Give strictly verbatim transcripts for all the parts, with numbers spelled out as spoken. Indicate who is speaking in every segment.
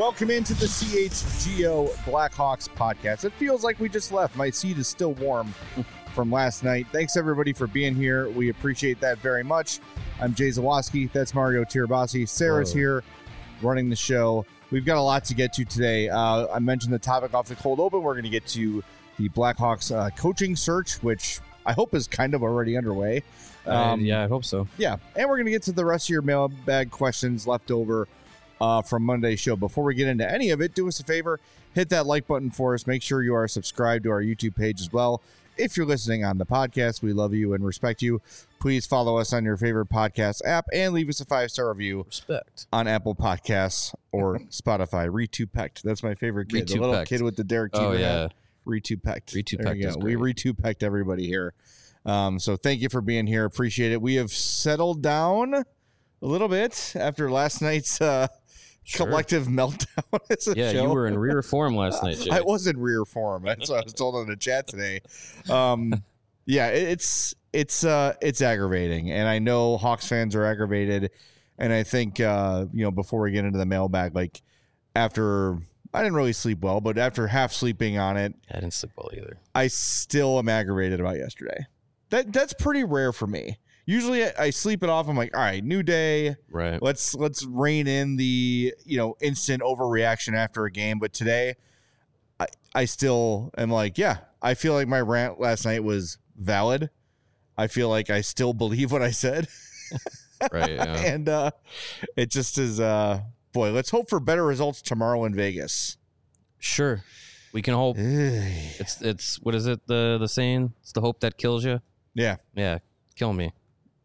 Speaker 1: Welcome into the C H G O Blackhawks podcast. It feels like we just left. My seat is still warm from last night. Thanks, everybody, for being here. We appreciate that very much. I'm Jay Zawoski. That's Mario Tirabassi. Sarah's
Speaker 2: Whoa.
Speaker 1: here running the show. We've got a lot to get to today. Uh, I mentioned the topic off the cold open. We're going to get to the Blackhawks uh, coaching search, which I hope is kind of already underway.
Speaker 2: Um, uh, yeah, I hope so.
Speaker 1: Yeah, and we're going to get to the rest of your mailbag questions left over uh, from Monday's show. Before we get into any of it, do us a favor, hit that like button for us. Make sure you are subscribed to our YouTube page as well. If you're listening on the podcast, we love you and respect you. Please follow us on your favorite podcast app and leave us a five-star review
Speaker 2: Respect.
Speaker 1: on Apple Podcasts or Spotify. Ritu-pecked. That's my favorite kid. The little
Speaker 2: Ritu-pecked.
Speaker 1: kid with the Derek Jeter
Speaker 2: Oh, yeah.
Speaker 1: hat. Ritu-pecked.
Speaker 2: Ritu-pecked
Speaker 1: There you
Speaker 2: is
Speaker 1: go. We
Speaker 2: great.
Speaker 1: Ritu-pecked everybody here. Um, so thank you for being here. Appreciate it. We have settled down a little bit after last night's uh,
Speaker 2: Sure.
Speaker 1: collective meltdown as a
Speaker 2: Yeah,
Speaker 1: show.
Speaker 2: you were in rear form last night, Jay.
Speaker 1: I was in rear form. That's what I was told on the chat today. Um, yeah, it, it's it's uh, it's aggravating, and I know Hawks fans are aggravated. And I think uh, you know, before we get into the mailbag, like after I didn't really sleep well, but after half sleeping on it,
Speaker 2: I didn't sleep well either.
Speaker 1: I still am aggravated about yesterday. That that's pretty rare for me. Usually I, I sleep it off. I'm like, all right, new day.
Speaker 2: Right.
Speaker 1: Let's let's rein in the, you know, instant overreaction after a game. But today, I I still am like, yeah, I feel like my rant last night was valid. I feel like I still believe what I said.
Speaker 2: Right. Yeah.
Speaker 1: And uh, it just is, uh, boy, let's hope for better results tomorrow in Vegas.
Speaker 2: Sure. We can hope.
Speaker 1: yeah.
Speaker 2: It's, it's what is it, the, the saying? It's the hope that kills you. Yeah. Kill me.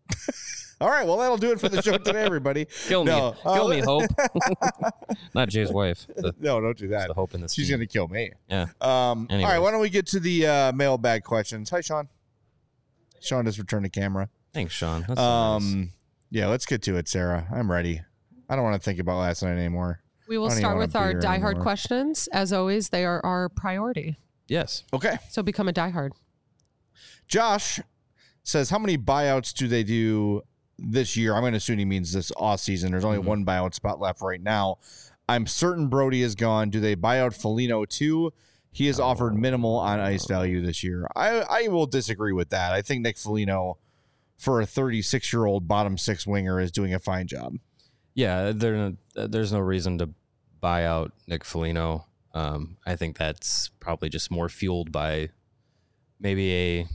Speaker 1: All right. Well, that'll do it for the show today, everybody.
Speaker 2: Kill me.
Speaker 1: No, uh,
Speaker 2: Kill me, Hope. Not Jay's wife. The,
Speaker 1: No, don't do that.
Speaker 2: the Hope in this
Speaker 1: She's
Speaker 2: team.
Speaker 1: going to kill me.
Speaker 2: Yeah.
Speaker 1: Um, all right,
Speaker 2: Anyways.
Speaker 1: why don't we get to the uh, mailbag questions? Hi, Sean. Sean just returned the camera.
Speaker 2: Thanks, Sean. That's so nice.
Speaker 1: Um, yeah, let's get to it, Sarah. I'm ready. I don't want to think about last night anymore.
Speaker 3: We will
Speaker 1: I don't even
Speaker 3: start
Speaker 1: wanna
Speaker 3: with
Speaker 1: be
Speaker 3: our
Speaker 1: here
Speaker 3: diehard
Speaker 1: anymore.
Speaker 3: questions. As always, they are our priority.
Speaker 2: Yes.
Speaker 1: Okay.
Speaker 3: So become a diehard.
Speaker 1: Josh says, how many buyouts do they do this year? I'm going to assume he means this off season. There's only
Speaker 2: Mhm.
Speaker 1: one buyout spot left right now. I'm certain Brody is gone. Do they buy out Foligno too? He has offered minimal on ice value this year. I, I will disagree with that. I think Nick Foligno, for a thirty-six-year-old bottom six winger, is doing a fine job.
Speaker 2: Yeah, there, there's no reason to buy out Nick Foligno. Um, I think that's probably just more fueled by maybe a,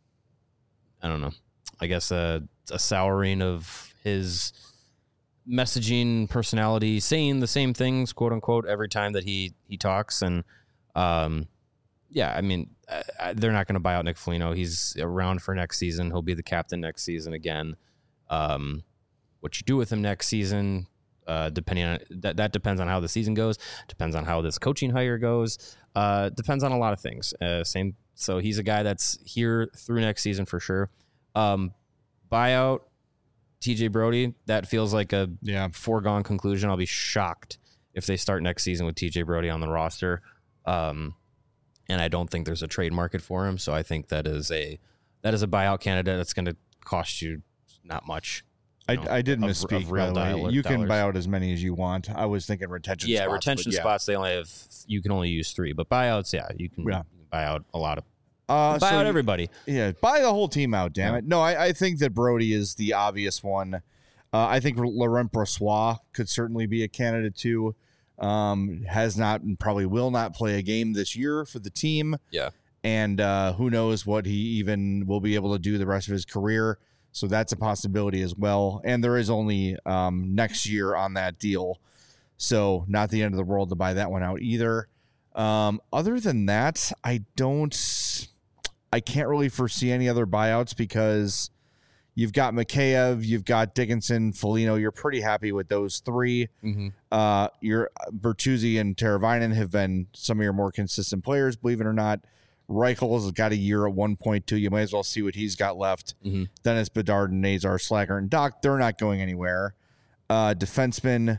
Speaker 2: I don't know, I guess a, a souring of his messaging personality, saying the same things, quote unquote, every time that he, he talks. And um, yeah, I mean, I, I, they're not going to buy out Nick Foligno. He's around for next season. He'll be the captain next season again. Um, what you do with him next season, uh, depending on that, that depends on how the season goes, depends on how this coaching hire goes, uh, depends on a lot of things. Uh, same. So he's a guy that's here through next season for sure. Um, buyout T J Brody, that feels like a
Speaker 1: Yeah.
Speaker 2: foregone conclusion. I'll be shocked if they start next season with T J Brody on the roster. Um, and I don't think there's a trade market for him. So I think that is a, that is a buyout candidate that's going to cost you not much.
Speaker 1: I,
Speaker 2: know,
Speaker 1: I did
Speaker 2: of-
Speaker 1: misspeak,
Speaker 2: of
Speaker 1: by
Speaker 2: real
Speaker 1: the way.
Speaker 2: dollar-
Speaker 1: You can
Speaker 2: dollars.
Speaker 1: buy out as many as you want. I was thinking retention
Speaker 2: Yeah,
Speaker 1: spots.
Speaker 2: retention
Speaker 1: but yeah.
Speaker 2: spots, they only have, you can only use three, but buyouts, yeah, you can,
Speaker 1: Yeah.
Speaker 2: you can buy out a lot of,
Speaker 1: Uh,
Speaker 2: buy
Speaker 1: so
Speaker 2: out
Speaker 1: you-
Speaker 2: everybody.
Speaker 1: Yeah, buy the whole team out, damn
Speaker 2: Yeah.
Speaker 1: it. No, I, I think that Brody is the obvious one. Uh, I think Laurent Brossoit could certainly be a candidate too. Um, has not and probably will not play a game this year for the team.
Speaker 2: Yeah.
Speaker 1: And uh, who knows what he even will be able to do the rest of his career. So that's a possibility as well. And there is only um, next year on that deal. So not the end of the world to buy that one out either. Um, other than that, I don't, I can't really foresee any other buyouts because you've got Mikheyev, you've got Dickinson, Foligno. You're pretty happy with those three.
Speaker 2: Mm-hmm.
Speaker 1: Uh, your Bertuzzi and Teravainen have been some of your more consistent players, believe it or not. Reichel's got a year at one point two. You might as well see what he's got left.
Speaker 2: Mm-hmm.
Speaker 1: Dennis Bedard and Nazar, Slacker, and Doc, they're not going anywhere. Uh, defenseman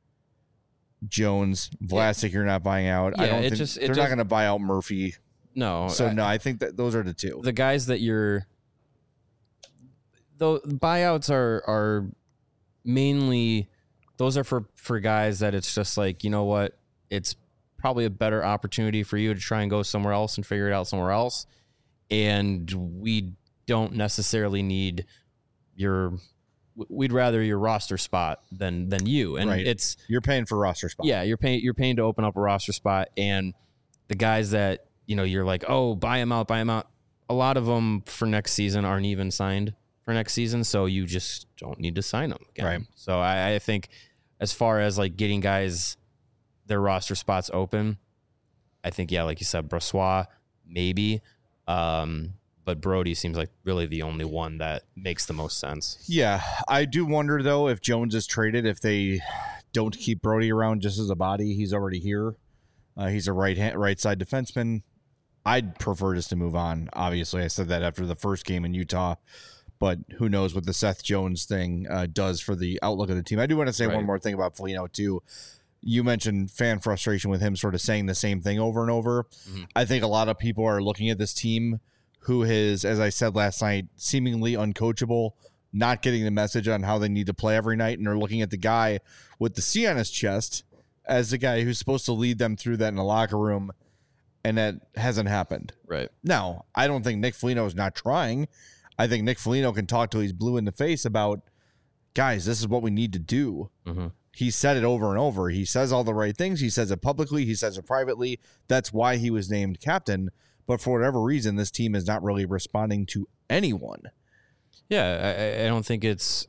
Speaker 1: Jones, Vlasic, you're not buying out. I
Speaker 2: Yeah,
Speaker 1: don't
Speaker 2: it
Speaker 1: think
Speaker 2: just- it
Speaker 1: they're not
Speaker 2: does-
Speaker 1: going to buy out Murphy.
Speaker 2: No.
Speaker 1: So
Speaker 2: I-
Speaker 1: no, I think that those are the two.
Speaker 2: the guys that you're, though buyouts are, are mainly those are for, for guys that it's just like, you know what, it's probably a better opportunity for you to try and go somewhere else and figure it out somewhere else. And we don't necessarily need your, we'd rather your roster spot than, than you. And
Speaker 1: right.
Speaker 2: it's,
Speaker 1: you're paying for roster spot.
Speaker 2: Yeah. You're paying, you're paying to open up a roster spot. And the guys that, you know, you're like, oh, buy them out, buy them out. A lot of them for next season aren't even signed for next season. So you just don't need to sign them again.
Speaker 1: Right.
Speaker 2: So I, I think as far as like getting guys their roster spots open, I think, yeah, like you said, Brossoit, maybe. Um, but Brody seems like really the only one that makes the most sense.
Speaker 1: Yeah. I do wonder, though, if Jones is traded, if they don't keep Brody around just as a body. He's already here. Uh, he's a right hand, right side defenseman. I'd prefer just to move on. Obviously, I said that after the first game in Utah, but who knows what the Seth Jones thing uh, does for the outlook of the team. I do want to say
Speaker 2: right.
Speaker 1: one more thing about Foligno, too. You mentioned fan frustration with him sort of saying the same thing over and over. Mm-hmm. I think a lot of people are looking at this team who is, as I said last night, seemingly uncoachable, not getting the message on how they need to play every night, and are looking at the guy with the C on his chest as the guy who's supposed to lead them through that in the locker room, and that hasn't happened.
Speaker 2: Right.
Speaker 1: Now, I don't think Nick Foligno is not trying. I think Nick Foligno can talk till he's blue in the face about, guys, this is what we need to do. Mm-hmm. He said it over and over. He says all the right things. He says it publicly. He says it privately. That's why he was named captain. But for whatever reason, this team is not really responding to anyone.
Speaker 2: Yeah, I, I don't think it's...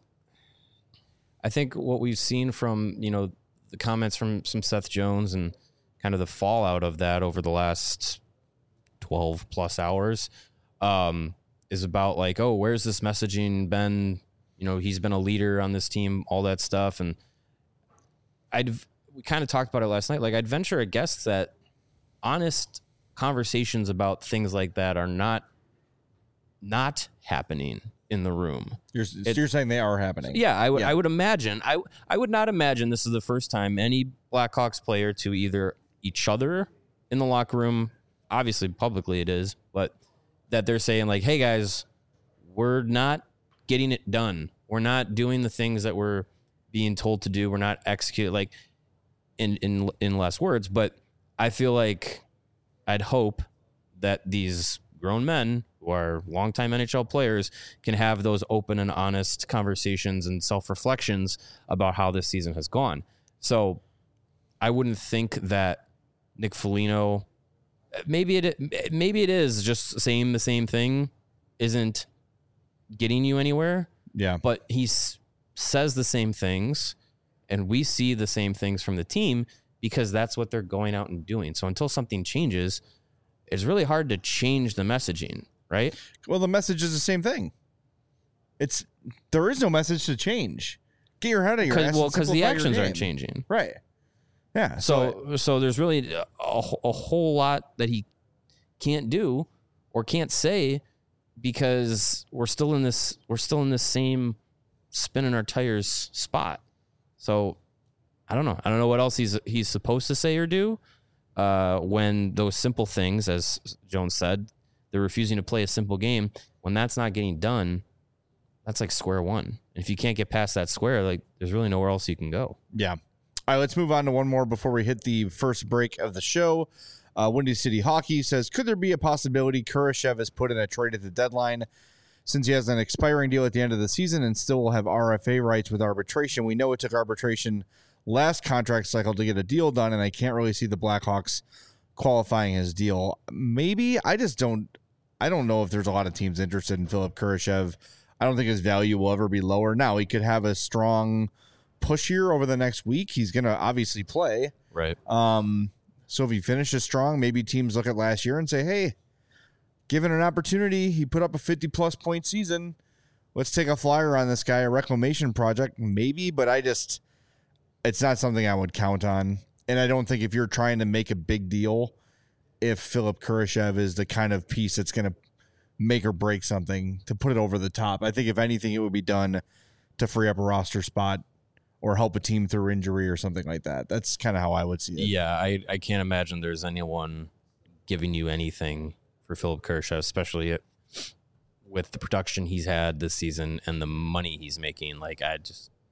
Speaker 2: I think what we've seen from, you know, the comments from some Seth Jones and kind of the fallout of that over the last twelve plus hours um, is about like, oh, where's this messaging been? You know, he's been a leader on this team, all that stuff. And I'd, we kind of talked about it last night. Like, I'd venture a guess that honest conversations about things like that are not, not happening in the room.
Speaker 1: You're, so it, you're saying they are happening.
Speaker 2: Yeah, I would.
Speaker 1: Yeah.
Speaker 2: I would imagine. I I would not imagine this is the first time any Blackhawks player to either each other in the locker room, obviously publicly it is, but that they're saying like, "Hey guys, we're not getting it done. We're not doing the things that we're being told to do. We're not executing." Like, in in in less words, but I feel like I'd hope that these grown men who are longtime N H L players can have those open and honest conversations and self-reflections about how this season has gone. So I wouldn't think that Nick Foligno, maybe it maybe it is just saying the same thing isn't getting you anywhere.
Speaker 1: Yeah.
Speaker 2: But he s- says the same things, and we see the same things from the team because that's what they're going out and doing. So until something changes, it's really hard to change the messaging, right?
Speaker 1: Well, the message is the same thing. It's there is no message to change. Get your head out of your ass.
Speaker 2: Well, because the actions
Speaker 1: game.
Speaker 2: aren't changing,
Speaker 1: right? Yeah.
Speaker 2: So, so, so there's really a, a whole lot that he can't do or can't say because we're still in this. We're still in this same spinning our tires spot. So I don't know. I don't know what else he's he's supposed to say or do. Uh, when those simple things, as Jones said, they're refusing to play a simple game. When that's not getting done, that's like square one. And if you can't get past that square, like there's really nowhere else you can go.
Speaker 1: Yeah. All right, let's move on to one more before we hit the first break of the show. Uh, Windy City Hockey says, could there be a possibility Kurashev is put in a trade at the deadline? Since he has an expiring deal at the end of the season and still will have R F A rights with arbitration, we know it took arbitration last contract cycle to get a deal done, and I can't really see the Blackhawks qualifying his deal. Maybe. I just don't I don't know if there's a lot of teams interested in Philip Kurashev. I don't think his value will ever be lower. Now, he could have a strong push here over the next week. He's going to obviously play.
Speaker 2: Right.
Speaker 1: Um, so if he finishes strong, maybe teams look at last year and say, hey, given an opportunity, he put up a fifty-plus point season. Let's take a flyer on this guy, a reclamation project. Maybe, but I just... it's not something I would count on. And I don't think if you're trying to make a big deal, if Philip Kurashev is the kind of piece that's going to make or break something to put it over the top. I think if anything, it would be done to free up a roster spot or help a team through injury or something like that. That's kind of how I would see it.
Speaker 2: Yeah, I, I can't imagine there's anyone giving you anything for Philip Kurashev, especially it, with the production he's had this season and the money he's making. Like, I just...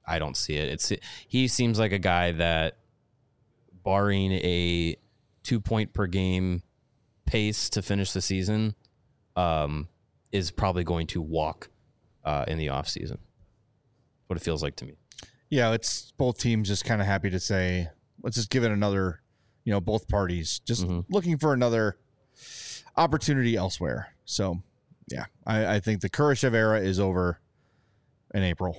Speaker 2: I don't see it. It's he seems like a guy that, barring a two point per game pace to finish the season, um, is probably going to walk uh, in the offseason. What it feels like to me.
Speaker 1: Yeah, it's both teams just kind of happy to say, let's just give it another, you know, both parties just mm-hmm. looking for another opportunity elsewhere. So, yeah, I, I think the Kurashev era is over in April.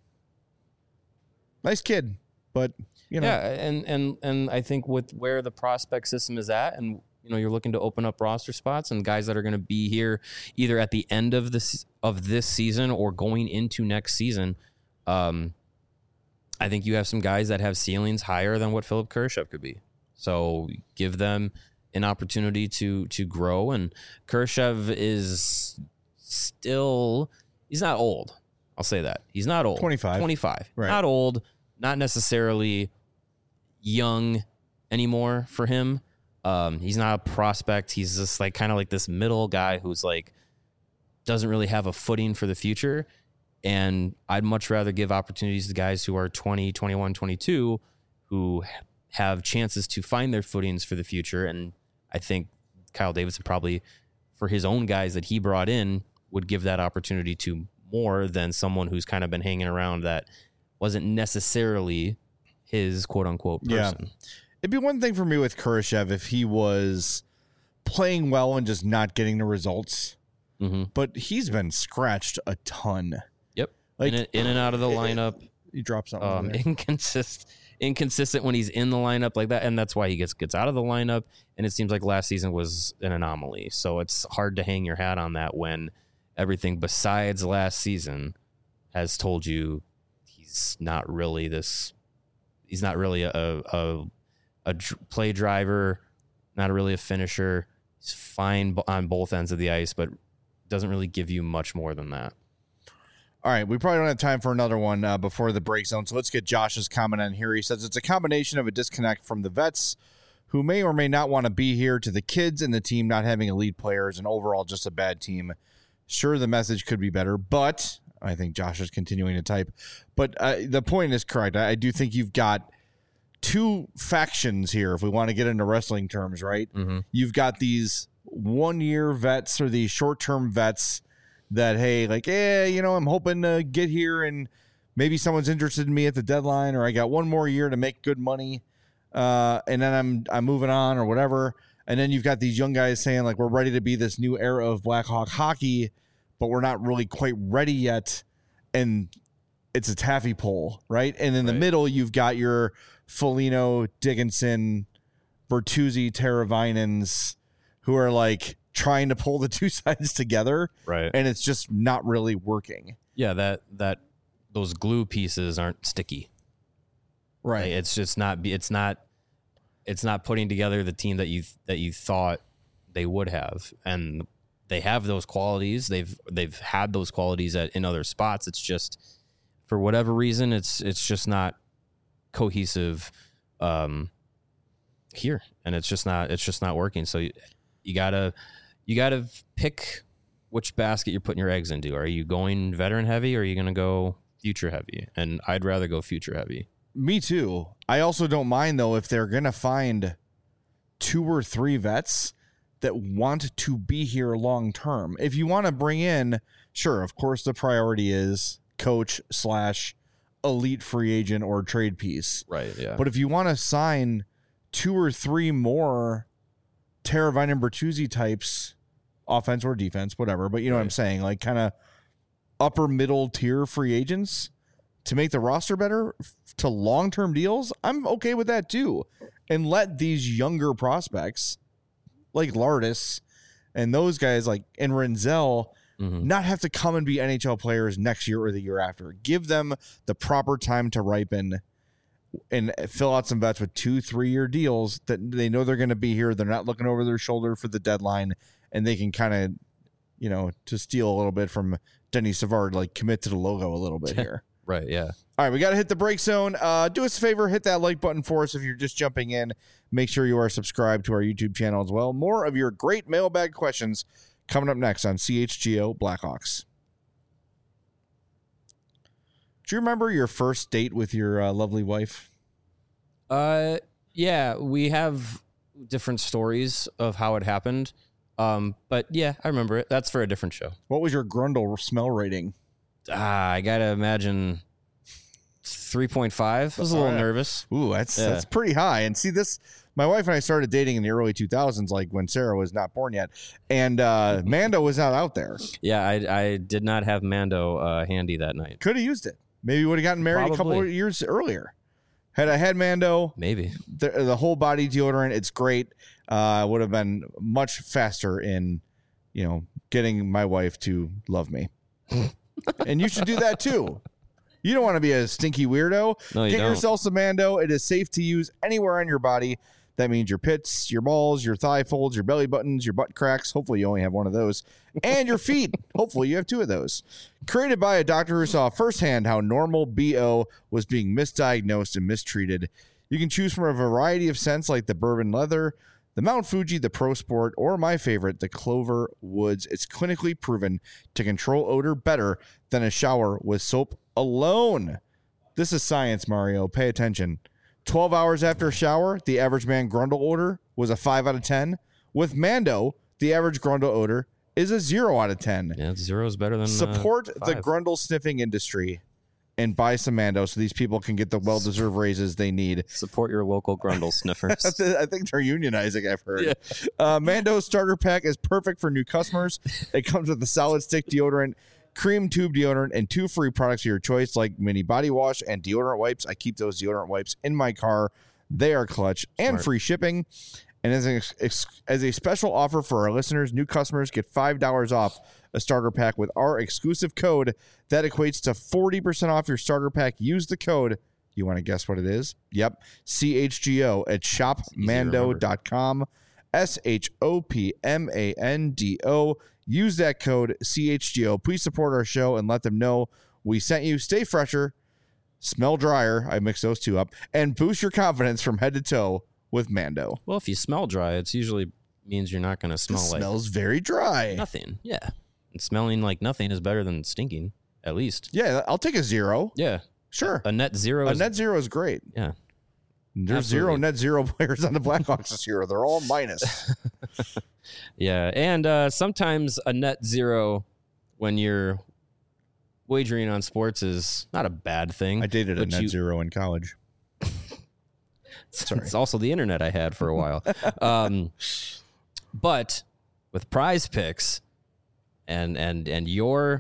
Speaker 1: Nice kid, but, you know.
Speaker 2: Yeah, and, and, and I think with where the prospect system is at, and, you know, you're looking to open up roster spots and guys that are going to be here either at the end of this, of this season or going into next season, um, I think you have some guys that have ceilings higher than what Philipp Kurashev could be. So give them an opportunity to to grow. And Kurashev is still, he's not old. I'll say that. He's not old.
Speaker 1: twenty-five.
Speaker 2: twenty-five.
Speaker 1: Right.
Speaker 2: Not old, not necessarily young anymore for him. Um, he's not a prospect. He's just like kind of like this middle guy who's like doesn't really have a footing for the future. And I'd much rather give opportunities to guys who are twenty, twenty-one, twenty-two, who have chances to find their footings for the future. And I think Kyle Davidson probably, for his own guys that he brought in, would give that opportunity to more than someone who's kind of been hanging around that wasn't necessarily his quote-unquote person.
Speaker 1: Yeah. It'd be one thing for me with Kurashev if he was playing well and just not getting the results.
Speaker 2: Mm-hmm.
Speaker 1: But he's been scratched a ton.
Speaker 2: Like in, in and out of the lineup,
Speaker 1: he drops something.
Speaker 2: Um, inconsistent, inconsistent when he's in the lineup like that, and that's why he gets gets out of the lineup. And it seems like last season was an anomaly. So it's hard to hang your hat on that when everything besides last season has told you he's not really this. He's not really a a, a, a play driver, not really a finisher. He's fine on both ends of the ice, but doesn't really give you much more than that.
Speaker 1: All right, we probably don't have time for another one uh, before the break zone, so let's get Josh's comment on here. He says it's a combination of a disconnect from the vets who may or may not want to be here to the kids and the team not having elite players and overall just a bad team. Sure, the message could be better, but I think Josh is continuing to type. But uh, the point is correct. I, I do think you've got two factions here, if we want to get into wrestling terms, right?
Speaker 2: Mm-hmm.
Speaker 1: You've got these one-year vets or these short-term vets that, hey, like, yeah, you know, I'm hoping to get here and maybe someone's interested in me at the deadline, or I got one more year to make good money, uh, and then I'm I'm moving on or whatever. And then you've got these young guys saying, like, we're ready to be this new era of Blackhawk hockey, but we're not really quite ready yet. And it's a taffy pole, right? And in right. the middle, you've got your Foligno, Dickinson, Bertuzzi, Teravainens, who are like trying to pull the two sides together,
Speaker 2: right?
Speaker 1: And it's just not really working.
Speaker 2: Yeah, that that those glue pieces aren't sticky,
Speaker 1: right?
Speaker 2: Like, it's just not. It's not. It's not putting together the team that you that you thought they would have, and they have those qualities. They've they've had those qualities at in other spots. It's just for whatever reason, it's it's just not cohesive um, here, and it's just not it's just not working. So you, you gotta. You got to pick which basket you're putting your eggs into. Are you going veteran heavy or are you going to go future heavy? And I'd rather go future heavy.
Speaker 1: Me too. I also don't mind, though, if they're going to find two or three vets that want to be here long term. If you want to bring in, sure, of course, the priority is coach slash elite free agent or trade piece.
Speaker 2: Right, yeah.
Speaker 1: But if you want to sign two or three more Teravainen and Bertuzzi types, offense or defense, whatever, but you know right. what I'm saying, like kind of upper middle tier free agents to make the roster better to long-term deals, I'm okay with that too. And let these younger prospects like Lardis and those guys like and Renzel mm-hmm. not have to come and be N H L players next year or the year after. Give them the proper time to ripen and fill out some vets with two, three-year deals that they know they're going to be here. They're not looking over their shoulder for the deadline, and they can kind of, you know, to steal a little bit from Denny Savard, like commit to the logo a little bit here.
Speaker 2: Right, yeah.
Speaker 1: All right, we got to hit the break zone. Uh, do us a favor, hit that like button for us if you're just jumping in. Make sure you are subscribed to our YouTube channel as well. More of your great mailbag questions coming up next on C H G O Blackhawks. Do you remember your first date with your uh, lovely wife?
Speaker 2: Uh, yeah, we have different stories of how it happened. Um, but yeah, I remember it. That's for a different show.
Speaker 1: What was your Grundle smell rating?
Speaker 2: Ah, I gotta imagine three point five. I was a little
Speaker 1: All right.
Speaker 2: nervous.
Speaker 1: Ooh, that's
Speaker 2: Yeah.
Speaker 1: that's pretty high. And see this, my wife and I started dating in the early two thousands, like when Sarah was not born yet, and uh, Mando was not out there.
Speaker 2: Yeah, I I did not have Mando uh, handy that night.
Speaker 1: Could have used it. Maybe would have gotten married a couple
Speaker 2: Probably.
Speaker 1: of years earlier. Had I had Mando,
Speaker 2: Maybe.
Speaker 1: the, the whole body deodorant, it's great. Uh, would have been much faster in, you know, getting my wife to love me. And you should do that too. You don't want to be a stinky weirdo.
Speaker 2: No, you
Speaker 1: Get
Speaker 2: don't.
Speaker 1: yourself some Mando. It is safe to use anywhere on your body. That means your pits, your balls, your thigh folds, your belly buttons, your butt cracks. Hopefully you only have one of those. And your feet. Hopefully you have two of those. Created by a doctor who saw firsthand how normal B O was being misdiagnosed and mistreated. You can choose from a variety of scents like the bourbon leather, the Mount Fuji, the Pro Sport, or my favorite, the Clover Woods. It's clinically proven to control odor better than a shower with soap alone. This is science, Mario. Pay attention. twelve hours after a shower, the average man Grundle odor was a five out of ten. With Mando, the average Grundle odor is a zero out of ten.
Speaker 2: Yeah, zero is better than
Speaker 1: Support
Speaker 2: uh,
Speaker 1: the
Speaker 2: five.
Speaker 1: Grundle sniffing industry and buy some Mando so these people can get the well-deserved raises they need.
Speaker 2: Support your local Grundle sniffers.
Speaker 1: I think they're unionizing, I've heard. Yeah. Uh, Mando starter pack is perfect for new customers. It comes with a solid stick deodorant, cream tube deodorant, and two free products of your choice like mini body wash and deodorant wipes. I keep those deodorant wipes in my car. They are clutch. And
Speaker 2: Smart.
Speaker 1: free shipping. And as, an ex- as a special offer for our listeners, new customers get five dollars off a starter pack with our exclusive code. That equates to forty percent off your starter pack. Use the code. You want to guess what it is? Yep. C H G O at shop mando dot com. S H O P M A N D O. Use that code C H G O. Please support our show and let them know we sent you. Stay fresher, smell drier. I mixed those two up. And boost your confidence from head to toe with Mando.
Speaker 2: Well, if you smell dry, it's usually means you're not going to smell
Speaker 1: It
Speaker 2: like
Speaker 1: smells very dry.
Speaker 2: nothing. Yeah. And smelling like nothing is better than stinking, at least.
Speaker 1: Yeah, I'll take a zero.
Speaker 2: Yeah.
Speaker 1: Sure.
Speaker 2: A net zero
Speaker 1: A
Speaker 2: is
Speaker 1: net zero is great.
Speaker 2: yeah.
Speaker 1: There's
Speaker 2: Absolutely.
Speaker 1: zero net zero players on the Blackhawks this year. They're all minus.
Speaker 2: Yeah. And uh, sometimes a net zero when you're wagering on sports is not a bad thing.
Speaker 1: I dated a
Speaker 2: but
Speaker 1: net
Speaker 2: you-
Speaker 1: zero in college.
Speaker 2: It's also the internet I had for a while. um, but with Prize Picks and and and your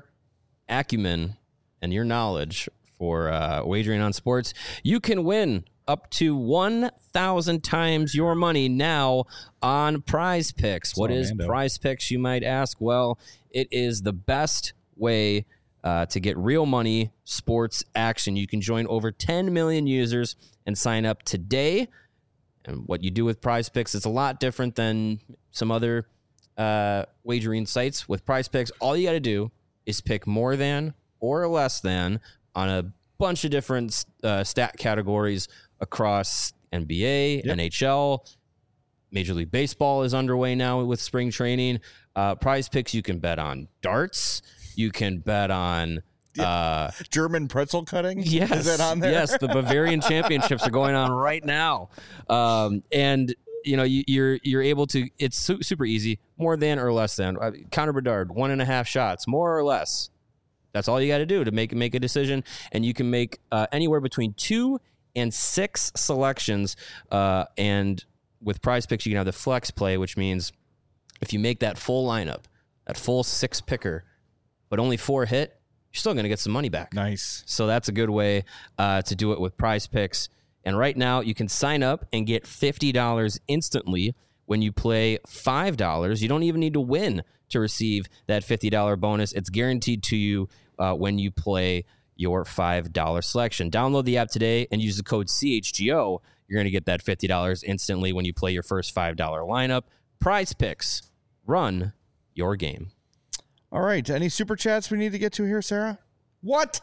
Speaker 2: acumen and your knowledge for uh, wagering on sports, you can win up to one thousand times your money now on Prize Picks. What
Speaker 1: all
Speaker 2: is
Speaker 1: Mando.
Speaker 2: Prize Picks, you might ask? Well, it is the best way uh, to get real money sports action. You can join over ten million users and sign up today. And what you do with Prize Picks is a lot different than some other uh, wagering sites. With Prize Picks, all you got to do is pick more than or less than on a bunch of different uh, stat categories across N B A,
Speaker 1: Yep.
Speaker 2: N H L. Major League Baseball is underway now with spring training. Uh, Prize Picks, you can bet on darts. You can bet on uh,
Speaker 1: German pretzel cutting?
Speaker 2: yes,
Speaker 1: Is that on there?
Speaker 2: yes. The Bavarian Championships are going on right now, um, and you know you, you're you're able to. It's su- super easy. More than or less than. Uh, Connor Bedard, one and a half shots, more or less. That's all you got to do to make make a decision, and you can make uh, anywhere between two and six selections. Uh, and with Prize Picks, you can have the flex play, which means if you make that full lineup, that full six picker, but only four hit, you're still going to get some money back.
Speaker 1: Nice.
Speaker 2: So that's a good way uh, to do it with Prize Picks. And right now, you can sign up and get fifty dollars instantly when you play five dollars. You don't even need to win to receive that fifty dollars bonus. It's guaranteed to you uh, when you play your five dollars selection. Download the app today and use the code C H G O. You're going to get that fifty dollars instantly when you play your first five dollars lineup. Prize Picks. Run your game.
Speaker 1: All right. Any super chats we need to get to here, Sarah? What?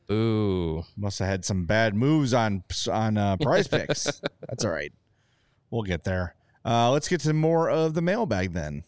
Speaker 2: Ooh.
Speaker 1: Must have had some bad moves on on uh, Prize Picks. That's all right. We'll get there. Uh, let's get to more of the mailbag then.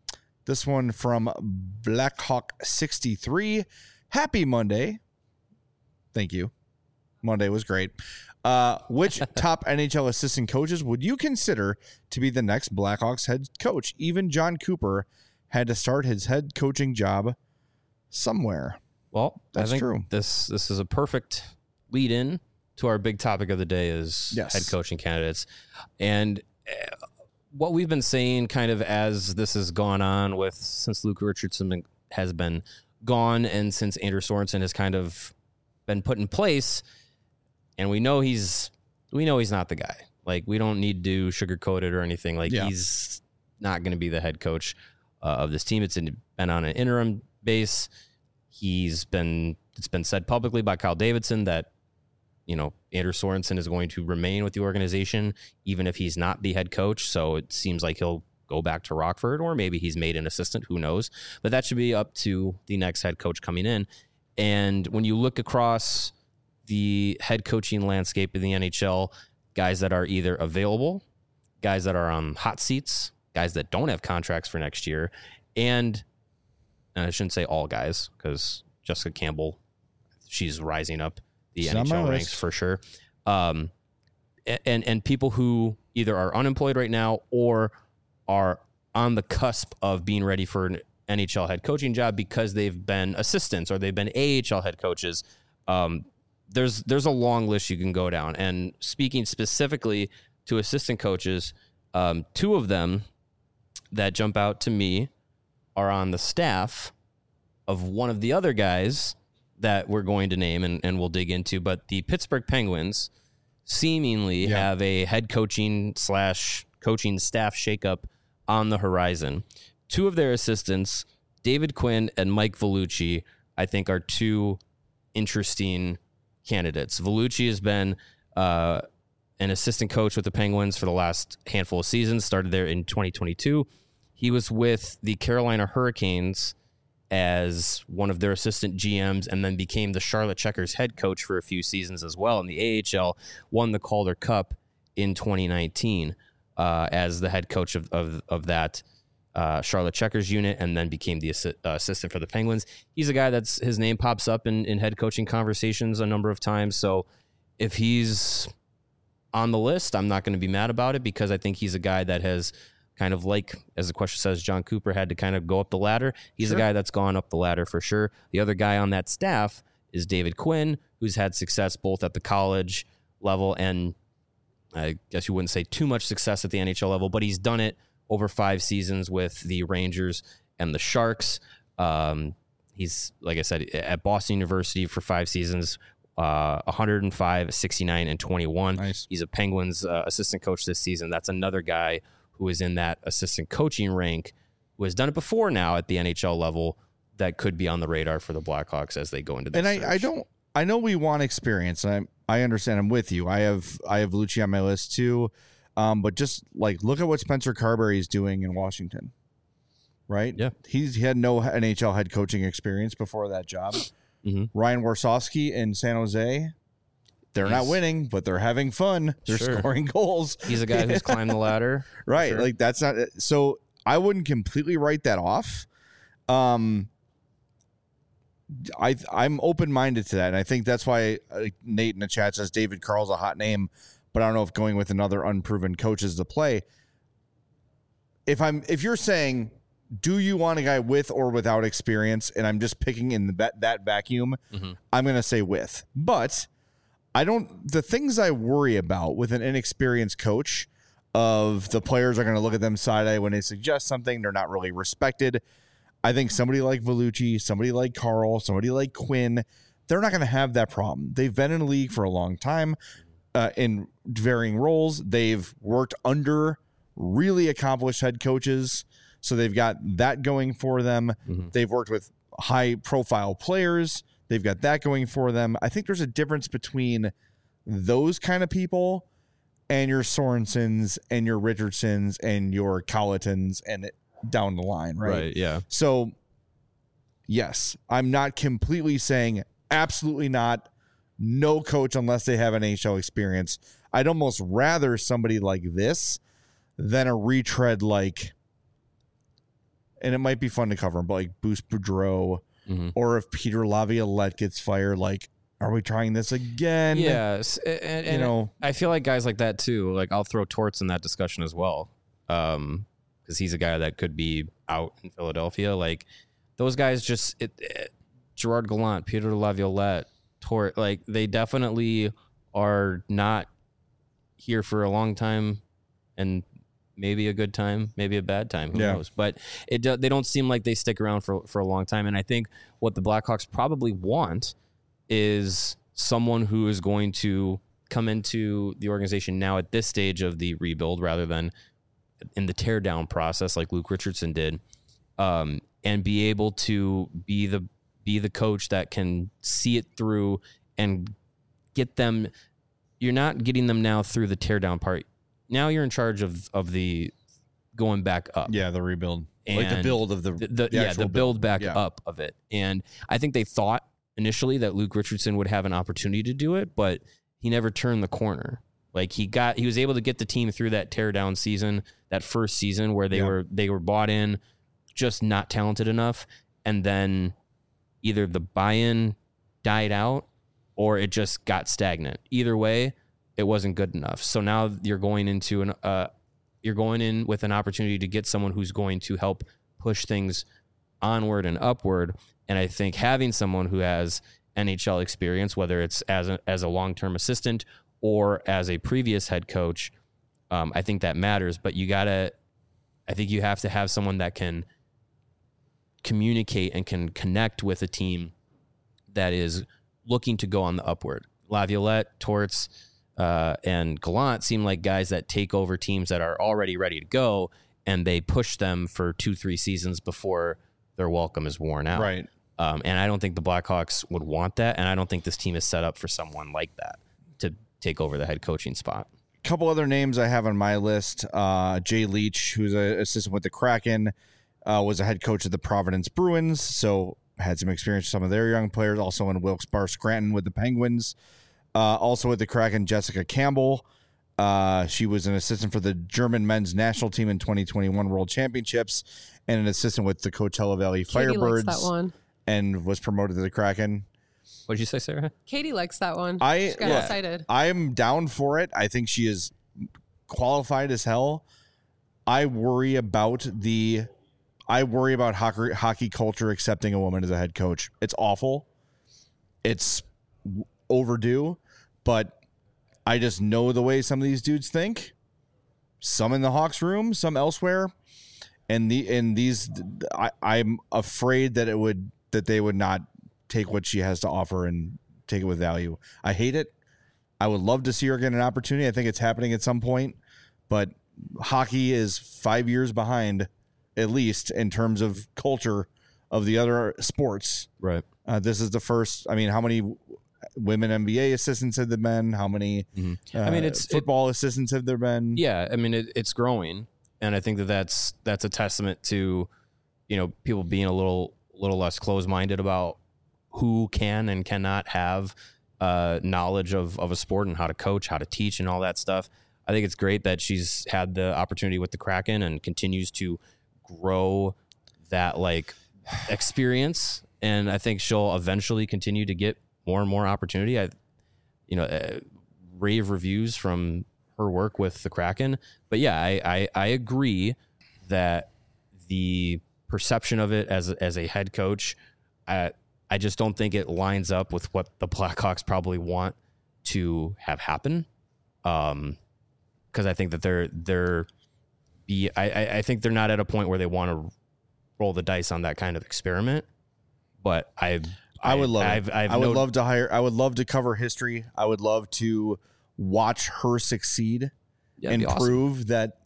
Speaker 1: This one from Blackhawk sixty-three. Happy Monday. Thank you. Monday was great. Uh, which top N H L assistant coaches would you consider to be the next Blackhawks head coach? Even John Cooper had to start his head coaching job somewhere.
Speaker 2: Well,
Speaker 1: That's
Speaker 2: I think
Speaker 1: true.
Speaker 2: This this is a perfect lead in to our big topic of the day is
Speaker 1: Yes.
Speaker 2: head coaching candidates. And uh, what we've been saying kind of as this has gone on with since Luke Richardson has been gone and since Andrew Sorensen has kind of been put in place, and we know he's we know he's not the guy. Like, we don't need to sugarcoat it or anything. Like,
Speaker 1: Yeah.
Speaker 2: he's not going to be the head coach uh, of this team. It's in, been on an interim base. He's been it's been said publicly by Kyle Davidson that, you know, Andrew Sorensen is going to remain with the organization even if he's not the head coach. So it seems like he'll go back to Rockford, or maybe he's made an assistant. Who knows? But that should be up to the next head coach coming in. And when you look across the head coaching landscape in the N H L, guys that are either available, guys that are on hot seats, guys that don't have contracts for next year, and, and I shouldn't say all guys, because Jessica Campbell, she's rising up the
Speaker 1: She's
Speaker 2: N H
Speaker 1: on
Speaker 2: L
Speaker 1: my
Speaker 2: ranks
Speaker 1: list.
Speaker 2: for sure. Um, and and people who either are unemployed right now or are on the cusp of being ready for an N H L head coaching job because they've been assistants or they've been A H L head coaches. Um, there's there's a long list you can go down. And speaking specifically to assistant coaches, um, two of them that jump out to me are on the staff of one of the other guys that we're going to name and, and we'll dig into. But the Pittsburgh Penguins seemingly
Speaker 1: Yeah.
Speaker 2: have a head coaching slash coaching staff shakeup on the horizon. Two of their assistants, David Quinn and Mike Vellucci, I think are two interesting candidates. Vellucci has been uh, an assistant coach with the Penguins for the last handful of seasons, started there in twenty twenty-two. He was with the Carolina Hurricanes as one of their assistant G Ms and then became the Charlotte Checkers head coach for a few seasons as well. In the A H L, won the Calder Cup in twenty nineteen uh, as the head coach of, of, of that uh, Charlotte Checkers unit, and then became the assi- uh, assistant for the Penguins. He's a guy that's his name pops up in, in head coaching conversations a number of times. So if he's on the list, I'm not going to be mad about it, because I think he's a guy that has kind of, like, as the question says, John Cooper had to kind of go up the ladder. He's
Speaker 1: Sure.
Speaker 2: a guy that's gone up the ladder for sure. The other guy on that staff is David Quinn, who's had success both at the college level and I guess you wouldn't say too much success at the N H L level, but he's done it over five seasons with the Rangers and the Sharks. Um, he's, like I said, at Boston University for five seasons, uh, one oh five, sixty-nine, and twenty-one.
Speaker 1: Nice.
Speaker 2: He's a Penguins uh, assistant coach this season. That's another guy who is in that assistant coaching rank, who has done it before now at the N H L level, that could be on the radar for the Blackhawks as they go into this
Speaker 1: And I, I
Speaker 2: search.
Speaker 1: don't, I know we want experience. And I, I understand. I'm with you. I have, I have Lucci on my list too. Um, but just like, look at what Spencer Carberry is doing in Washington, right?
Speaker 2: Yeah.
Speaker 1: He's, he had no N H L head coaching experience before that job.
Speaker 2: Mhm.
Speaker 1: Ryan Warsofsky in San Jose, they're not
Speaker 2: He's-
Speaker 1: winning, but they're having fun. They're
Speaker 2: Sure.
Speaker 1: scoring goals.
Speaker 2: He's a guy who's climbed the ladder.
Speaker 1: Right.
Speaker 2: Sure.
Speaker 1: Like that's not, so I wouldn't completely write that off. Um, I I'm open minded to that, and I think that's why uh, Nate in the chat says David Carl's a hot name, but I don't know if going with another unproven coach is the play. If I'm if you're saying, do you want a guy with or without experience, and I'm just picking in the, that that vacuum,
Speaker 2: Mhm.
Speaker 1: I'm going to say with. But I don't. The things I worry about with an inexperienced coach, of the players are going to look at them side eye when they suggest something, they're not really respected. I think somebody like Vellucci, somebody like Carl, somebody like Quinn, they're not going to have that problem. They've been in the league for a long time uh, in varying roles. They've worked under really accomplished head coaches, so they've got that going for them.
Speaker 2: Mhm.
Speaker 1: They've worked with high profile players. They've got that going for them. I think there's a difference between those kind of people and your Sorensens and your Richardsons and your Colletons and down the line, right?
Speaker 2: Right, yeah.
Speaker 1: So, yes, I'm not completely saying absolutely not, no coach unless they have an N H L experience. I'd almost rather somebody like this than a retread like, and it might be fun to cover, but like Bruce Boudreau,
Speaker 2: Mhm.
Speaker 1: or if Peter Laviolette gets fired, like are we trying this again?
Speaker 2: Yes, and, and
Speaker 1: you know,
Speaker 2: I feel like guys like that too. Like I'll throw Torts in that discussion as well, um, because he's a guy that could be out in Philadelphia. Like those guys, just it, it, Gerard Gallant, Peter Laviolette, Tort, like they definitely are not here for a long time, and maybe a good time, maybe a bad time. Who
Speaker 1: yeah.
Speaker 2: knows? But it do, they don't seem like they stick around for for a long time. And I think what the Blackhawks probably want is someone who is going to come into the organization now at this stage of the rebuild rather than in the tear down process like Luke Richardson did, um, and be able to be the be the coach that can see it through and get them. You're not getting them now through the tear down part. Now you're in charge of of the going back up.
Speaker 1: Yeah, the rebuild.
Speaker 2: And
Speaker 1: like the build of the,
Speaker 2: the, the,
Speaker 1: the
Speaker 2: yeah
Speaker 1: actual
Speaker 2: the build back
Speaker 1: yeah.
Speaker 2: up of it. And I think they thought initially that Luke Richardson would have an opportunity to do it, but he never turned the corner. Like he got he was able to get the team through that tear down season, that first season where they
Speaker 1: yeah.
Speaker 2: were they were bought in, just not talented enough, and then either the buy-in died out or it just got stagnant. Either way, it wasn't good enough. So now you're going into an uh, you're going in with an opportunity to get someone who's going to help push things onward and upward. And I think having someone who has N H L experience, whether it's as a, as a long-term assistant or as a previous head coach, um, I think that matters. But you gotta, I think you have to have someone that can communicate and can connect with a team that is looking to go on the upward. Laviolette, Torts, uh, and Gallant seem like guys that take over teams that are already ready to go, and they push them for two, three seasons before their welcome is worn out.
Speaker 1: Right.
Speaker 2: Um, and I don't think the Blackhawks would want that, and I don't think this team is set up for someone like that to take over the head coaching spot.
Speaker 1: A couple other names I have on my list. Uh, Jay Leach, who's an assistant with the Kraken, uh, was a head coach of the Providence Bruins, so had some experience with some of their young players, also in Wilkes-Barre Scranton with the Penguins. Uh, also with the Kraken, Jessica Campbell. Uh, she was an assistant for the German men's national team in twenty twenty-one World Championships and an assistant with the Coachella Valley
Speaker 3: Katie
Speaker 1: Firebirds.
Speaker 3: likes that one.
Speaker 1: And was promoted to the Kraken.
Speaker 2: What did you say, Sarah?
Speaker 3: Katie likes that one.
Speaker 1: I
Speaker 3: she got
Speaker 1: yeah,
Speaker 3: excited.
Speaker 1: I'm down for it. I think she is qualified as hell. I worry about the I worry about hockey, hockey culture accepting a woman as a head coach. It's awful. It's overdue, but I just know the way some of these dudes think. Some in the Hawks room, some elsewhere. And the in these I, I'm afraid that it would that they would not take what she has to offer and take it with value. I hate it. I would love to see her get an opportunity. I think it's happening at some point, but hockey is five years behind, at least in terms of culture of the other sports.
Speaker 2: Right.
Speaker 1: Uh, this is the first. I mean, how many women N B A assistants have there been? How many?
Speaker 2: Mm-hmm.
Speaker 1: Uh,
Speaker 2: I mean, it's
Speaker 1: football
Speaker 2: it,
Speaker 1: assistants have there been?
Speaker 2: Yeah, I mean, it, it's growing, and I think that that's that's a testament to, you know, people being a little little less closed minded about who can and cannot have uh, knowledge of of a sport and how to coach, how to teach, and all that stuff. I think it's great that she's had the opportunity with the Kraken and continues to grow that like experience. And I think she'll eventually continue to get more and more opportunity. I, you know, uh, rave reviews from her work with the Kraken. But yeah, I, I, I agree that the perception of it as, as a head coach, I, I just don't think it lines up with what the Blackhawks probably want to have happen. Um, Because I think that they're they're be I, I think they're not at a point where they want to roll the dice on that kind of experiment. But I
Speaker 1: I would love
Speaker 2: I've,
Speaker 1: it.
Speaker 2: I've
Speaker 1: I would
Speaker 2: no,
Speaker 1: love to hire. I would love to cover history. I would love to watch her succeed
Speaker 2: yeah,
Speaker 1: and
Speaker 2: awesome.
Speaker 1: prove that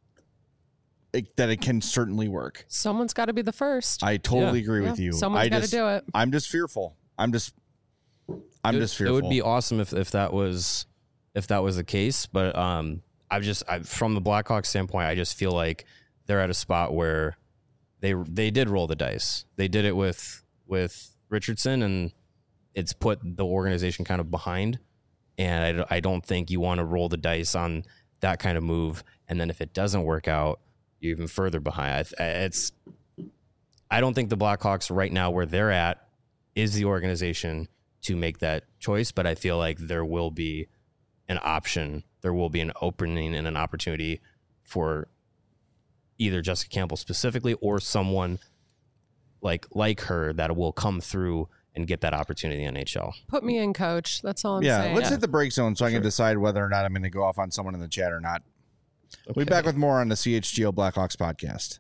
Speaker 1: it, that it can certainly work.
Speaker 3: Someone's got to be the first.
Speaker 1: I totally
Speaker 2: Yeah.
Speaker 1: agree
Speaker 3: Yeah,
Speaker 1: with you.
Speaker 3: Someone's
Speaker 1: I
Speaker 3: got to
Speaker 1: just,
Speaker 3: do it.
Speaker 1: I'm just fearful. I'm just. I'm
Speaker 2: it,
Speaker 1: just fearful.
Speaker 2: It would be awesome if, if that was if that was the case. But um, I've just I, from the Blackhawks standpoint, I just feel like they're at a spot where they they did roll the dice. They did it with with Richardson, and it's put the organization kind of behind. And I, I don't think you want to roll the dice on that kind of move. And then if it doesn't work out, you're even further behind. It's I don't think the Blackhawks right now where they're at is the organization to make that choice, but I feel like there will be an option. There will be an opening and an opportunity for either Jessica Campbell specifically or someone like like her that will come through and get that opportunity in the N H L.
Speaker 3: Put me in, coach. That's all I'm
Speaker 1: yeah,
Speaker 3: saying.
Speaker 1: let's
Speaker 2: Yeah.
Speaker 1: hit the break zone so I
Speaker 2: Sure.
Speaker 1: can decide whether or not I'm going to go off on someone in the chat or not. We'll be
Speaker 2: Okay.
Speaker 1: back with more on the C H G O Blackhawks podcast.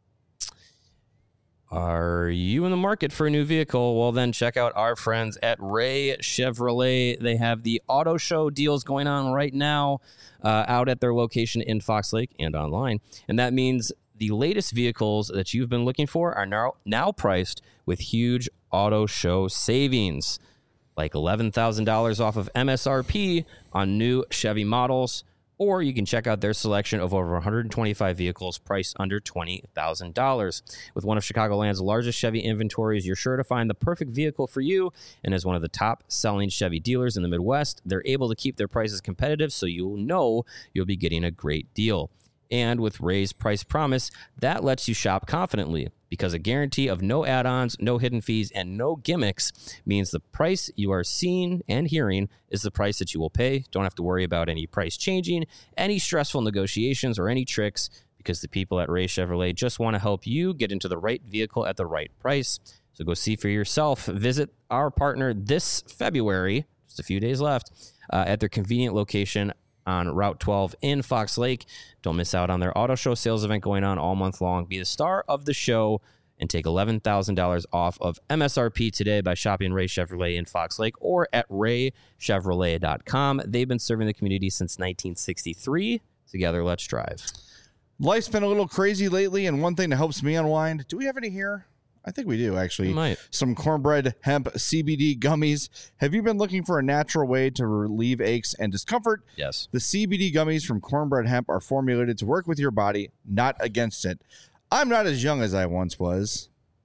Speaker 2: Are you in the market for a new vehicle? Well, then check out our friends at Ray Chevrolet. They have the auto show deals going on right now uh, out at their location in Fox Lake and online. And that means the latest vehicles that you've been looking for are now, now priced with huge auto show savings, like eleven thousand dollars off of M S R P on new Chevy models. Or you can check out their selection of over one hundred twenty-five vehicles priced under twenty thousand dollars. With one of Chicagoland's largest Chevy inventories, you're sure to find the perfect vehicle for you. And as one of the top-selling Chevy dealers in the Midwest, they're able to keep their prices competitive so you'll know you'll be getting a great deal. And with Ray's Price Promise, that lets you shop confidently because a guarantee of no add-ons, no hidden fees, and no gimmicks means the price you are seeing and hearing is the price that you will pay. Don't have to worry about any price changing, any stressful negotiations, or any tricks because the people at Ray Chevrolet just want to help you get into the right vehicle at the right price. So go see for yourself. Visit our partner this February, just a few days left, uh, at their convenient location on Route twelve in Fox Lake. Don't miss out on their auto show sales event going on all month long. Be the star of the show and take eleven thousand dollars off of M S R P today by shopping Ray Chevrolet in Fox Lake or at ray chevrolet dot com. They've been serving the community since nineteen sixty-three. Together, let's drive.
Speaker 1: Life's been a little crazy lately, and one thing that helps me unwind, do we have any here? I think we do, actually.
Speaker 2: We might.
Speaker 1: Some cornbread hemp C B D gummies. Have you been looking for a natural way to relieve aches and discomfort?
Speaker 2: Yes.
Speaker 1: The C B D gummies from Cornbread Hemp are formulated to work with your body, not against it. I'm not as young as I once was,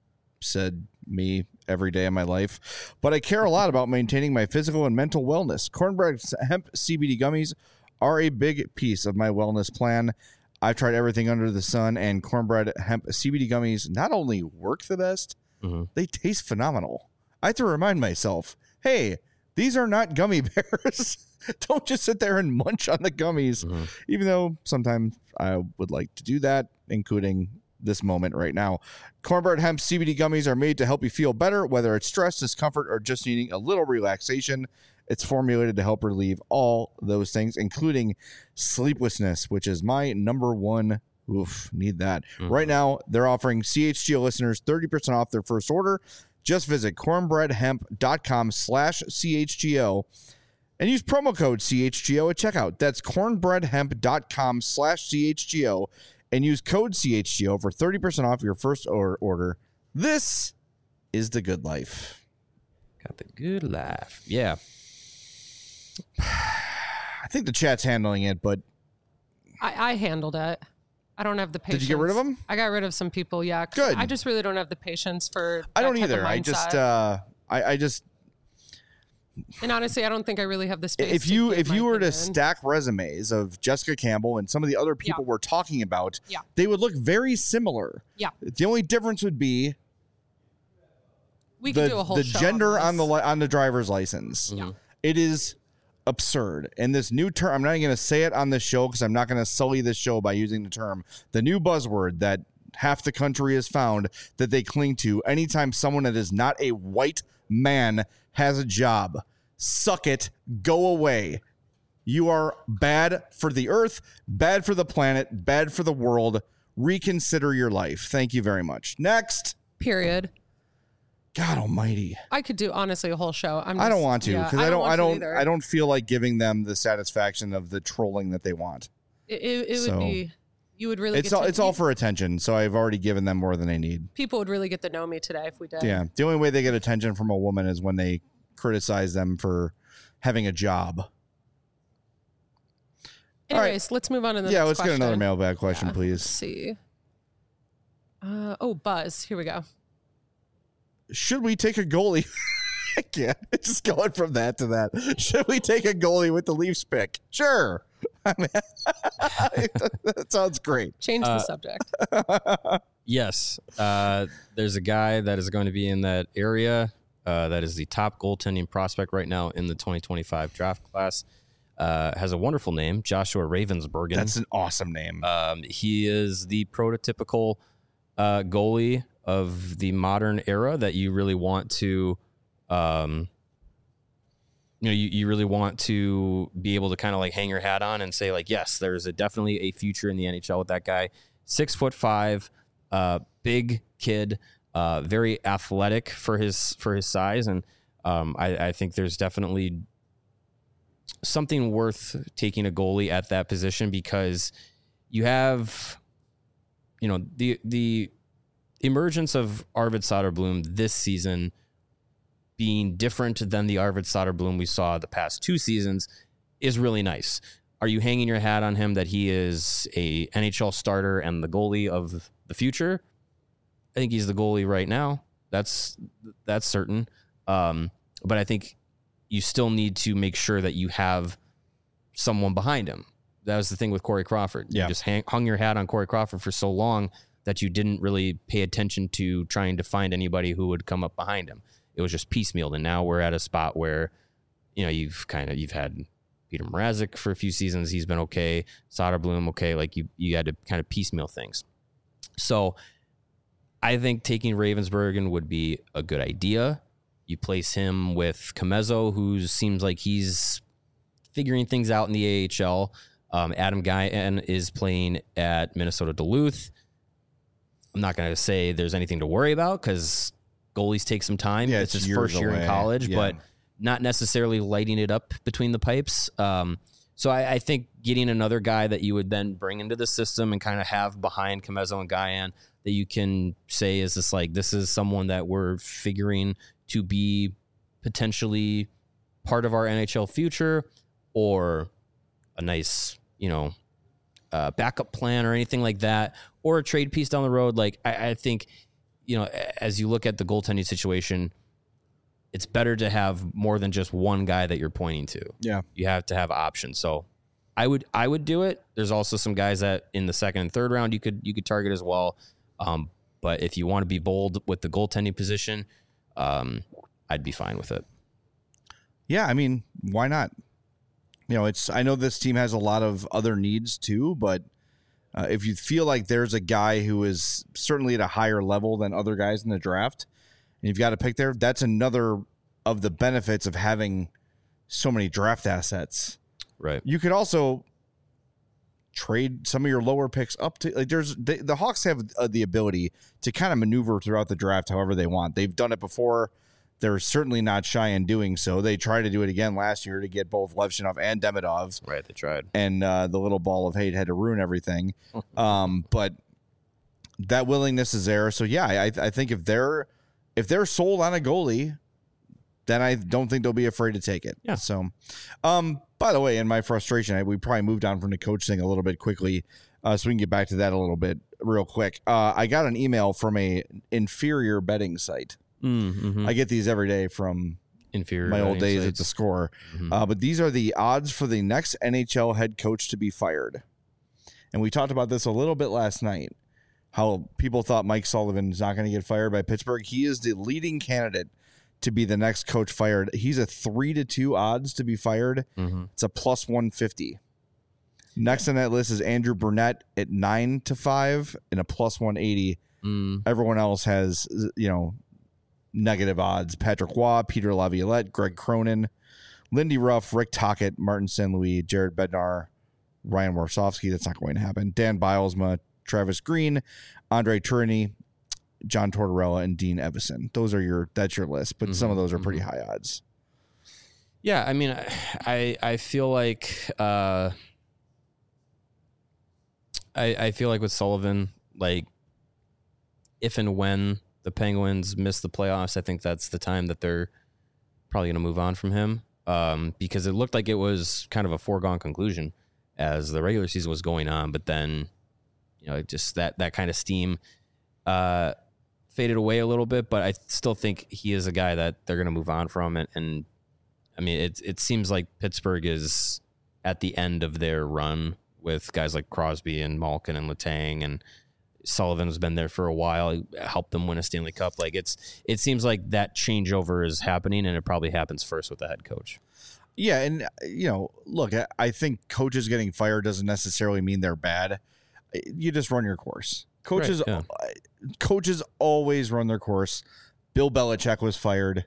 Speaker 1: said me every day of my life, but I care a lot about maintaining my physical and mental wellness. Cornbread Hemp C B D gummies are a big piece of my wellness plan. I've tried everything under the sun, and Cornbread Hemp C B D gummies not only work the best,
Speaker 2: Mm-hmm.
Speaker 1: they taste phenomenal. I have to remind myself, hey, these are not gummy bears. Don't just sit there and munch on the gummies,
Speaker 2: Mm-hmm.
Speaker 1: even though sometimes I would like to do that, including this moment right now. Cornbread Hemp C B D gummies are made to help you feel better, whether it's stress, discomfort, or just needing a little relaxation. It's formulated to help relieve all those things, including sleeplessness, which is my number one. Oof, need that.
Speaker 2: Mhm.
Speaker 1: Right now, they're offering C H G O listeners thirty percent off their first order. Just visit cornbreadhemp.com slash CHGO and use promo code C H G O at checkout. That's cornbreadhemp.com slash CHGO and use code C H G O for thirty percent off your first or- order. This is the good life.
Speaker 2: Got the good life. Yeah.
Speaker 1: I think the chat's handling it, but
Speaker 3: I, I handled it. I don't have the patience.
Speaker 1: did you get rid of them?
Speaker 3: I got rid of some people, yeah. 'cause
Speaker 1: Good.
Speaker 3: I just really don't have the patience for
Speaker 1: I
Speaker 3: that
Speaker 1: don't
Speaker 3: type of
Speaker 1: either. I just,
Speaker 3: mindset.
Speaker 1: uh, I, I just,
Speaker 3: and honestly, I don't think I really have the space.
Speaker 1: if
Speaker 3: to
Speaker 1: you
Speaker 3: give
Speaker 1: if
Speaker 3: my
Speaker 1: you were to
Speaker 3: opinion.
Speaker 1: stack resumes of Jessica Campbell and some of the other people
Speaker 3: Yeah.
Speaker 1: we're talking about,
Speaker 3: Yeah.
Speaker 1: they would look very similar.
Speaker 3: Yeah.
Speaker 1: The only difference would be
Speaker 3: we
Speaker 1: the,
Speaker 3: could do a whole
Speaker 1: the
Speaker 3: show
Speaker 1: gender on,
Speaker 3: on,
Speaker 1: the
Speaker 3: this.
Speaker 1: li- on the driver's license.
Speaker 2: Mhm.
Speaker 1: It is absurd. And this new term, I'm not even going to say it on this show because I'm not going to sully this show by using the term. The new buzzword that half the country has found that they cling to anytime someone that is not a white man has a job. Suck it. Go away. You are bad for the earth, bad for the planet, bad for the world. Reconsider your life. Thank you very much. Next.
Speaker 3: Period.
Speaker 1: God almighty.
Speaker 3: I could do honestly a whole show. I'm. Just,
Speaker 1: I don't want to
Speaker 3: yeah,
Speaker 1: because I don't
Speaker 3: want
Speaker 1: I
Speaker 3: to
Speaker 1: don't
Speaker 3: either.
Speaker 1: I don't feel like giving them the satisfaction of the trolling that they want.
Speaker 3: It, it, it
Speaker 1: So,
Speaker 3: would be. You would really.
Speaker 1: It's
Speaker 3: get
Speaker 1: all
Speaker 3: to,
Speaker 1: it's all
Speaker 3: you-
Speaker 1: for attention, so I've already given them more than they need.
Speaker 3: people would really get to know me today if we did.
Speaker 1: Yeah. The only way they get attention from a woman is when they criticize them for having a job. All right.
Speaker 3: Anyways, let's move on to the
Speaker 1: Yeah,
Speaker 3: next
Speaker 1: let's get another
Speaker 3: question.
Speaker 1: mailbag question,
Speaker 3: Yeah. Let's
Speaker 1: please.
Speaker 3: see. Uh, oh, Buzz. Here we go.
Speaker 1: Should we take a goalie? I can't. It's just going from that to that. Should we take a goalie with the Leafs pick? Sure. I mean, that sounds great.
Speaker 3: Change the
Speaker 2: Uh,
Speaker 3: subject.
Speaker 2: Yes. Uh, there's a guy that is going to be in that area uh, that is the top goaltending prospect right now in the twenty twenty-five draft class. Uh, has a wonderful name, Joshua Ravensbergen.
Speaker 1: That's an awesome name.
Speaker 2: Um, he is the prototypical uh, goalie of the modern era that you really want to, um, you know, you, you really want to be able to kind of like hang your hat on and say like, yes, there's a, definitely a future in the N H L with that guy. Six foot five, uh, big kid, uh, very athletic for his for his size, and um, I, I think there's definitely something worth taking a goalie at that position because you have, you know, the the emergence of Arvid Soderblom this season being different than the Arvid Soderblom we saw the past two seasons is really nice. Are you hanging your hat on him that he is a N H L starter and the goalie of the future? I think he's the goalie right now. That's that's certain. Um, but I think you still need to make sure that you have someone behind him. That was the thing with Corey Crawford.
Speaker 1: Yeah.
Speaker 2: You just hang, hung your hat on Corey Crawford for so long that you didn't really pay attention to trying to find anybody who would come up behind him. It was just piecemealed. And now we're at a spot where, you know, you've kind of, you've had Peter Mrazek for a few seasons. He's been okay. Soderblom, okay. Like you, you had to kind of piecemeal things. So I think taking Ravensbergen would be a good idea. You place him with Comezzo, who seems like he's figuring things out in the A H L. Um, Adam Guyan is playing at Minnesota Duluth. I'm not going to say there's anything to worry about because goalies take some time.
Speaker 1: Yeah,
Speaker 2: it's
Speaker 1: it's
Speaker 2: his
Speaker 1: years
Speaker 2: first year
Speaker 1: away.
Speaker 2: in college,
Speaker 1: Yeah.
Speaker 2: but not necessarily lighting it up between the pipes. Um, so I, I think getting another guy that you would then bring into the system and kind of have behind Comezzo and Guyan that you can say is this like, this is someone that we're figuring to be potentially part of our N H L future or a nice, you know, uh, backup plan or anything like that, or a trade piece down the road. Like, I, I think, you know, as you look at the goaltending situation, it's better to have more than just one guy that you're pointing to.
Speaker 1: Yeah.
Speaker 2: You have to have options. So I would, I would do it. There's also some guys that in the second and third round, you could, you could target as well. Um, but if you want to be bold with the goaltending position, um, I'd be fine with it.
Speaker 1: Yeah, I mean, why not? You know, it's. I know this team has a lot of other needs too, but uh, if you feel like there's a guy who is certainly at a higher level than other guys in the draft, and you've got to pick there, that's another of the benefits of having so many draft assets.
Speaker 2: Right.
Speaker 1: You could also trade some of your lower picks up to like there's they, the Hawks have uh, the ability to kind of maneuver throughout the draft however they want. They've done it before. They're certainly not shy in doing so. They tried to do it again last year to get both Levshinov and Demidov.
Speaker 2: Right, they tried.
Speaker 1: And uh, the little ball of hate had to ruin everything. um, but that willingness is there. So yeah, I, I think if they're if they're sold on a goalie, then I don't think they'll be afraid to take it.
Speaker 2: Yeah.
Speaker 1: So, um, by the way, in my frustration, I, we probably moved on from the coach thing a little bit quickly, uh, so we can get back to that a little bit real quick. Uh, I got an email from a inferior betting site.
Speaker 2: Mm-hmm.
Speaker 1: I get these every day from
Speaker 2: Inferior
Speaker 1: my old days
Speaker 2: sites.
Speaker 1: at the Score.
Speaker 2: Mhm.
Speaker 1: Uh, but these are the odds for the next N H L head coach to be fired. And we talked about this a little bit last night, how people thought Mike Sullivan is not going to get fired by Pittsburgh. He is the leading candidate to be the next coach fired. He's a three to two odds to be fired.
Speaker 2: Mm-hmm.
Speaker 1: It's a plus one fifty. Next on that list is Andrew Burnett at nine to five and a plus one eighty.
Speaker 2: Mm.
Speaker 1: Everyone else has, you know, negative odds. Patrick Waugh, Peter Laviolette, Greg Cronin, Lindy Ruff, Rick Tocchet, Martin Saint Louis, Jared Bednar, Ryan Warsofsky. That's not going to happen. Dan Bilesma, Travis Green, Andre Tourigny, John Tortorella, and Dean Evison. Those are your, that's your list, but mm-hmm, some of those are pretty mm-hmm. high odds.
Speaker 2: Yeah. I mean, I, I feel like, uh, I, I feel like with Sullivan, like if and when the Penguins miss the playoffs, I think that's the time that they're probably going to move on from him, um, because it looked like it was kind of a foregone conclusion as the regular season was going on. But then, you know, just that that kind of steam uh, faded away a little bit. But I still think he is a guy that they're going to move on from. And, and I mean, it it seems like Pittsburgh is at the end of their run with guys like Crosby and Malkin and Letang and Sullivan's been there for a while. He helped them win a Stanley Cup. Like it's, it seems like that changeover is happening, and it probably happens first with the head coach.
Speaker 1: Yeah, and you know, look, I, I think coaches getting fired doesn't necessarily mean they're bad. You just run your course. Coaches,
Speaker 2: Right, yeah.
Speaker 1: coaches always run their course. Bill Belichick was fired.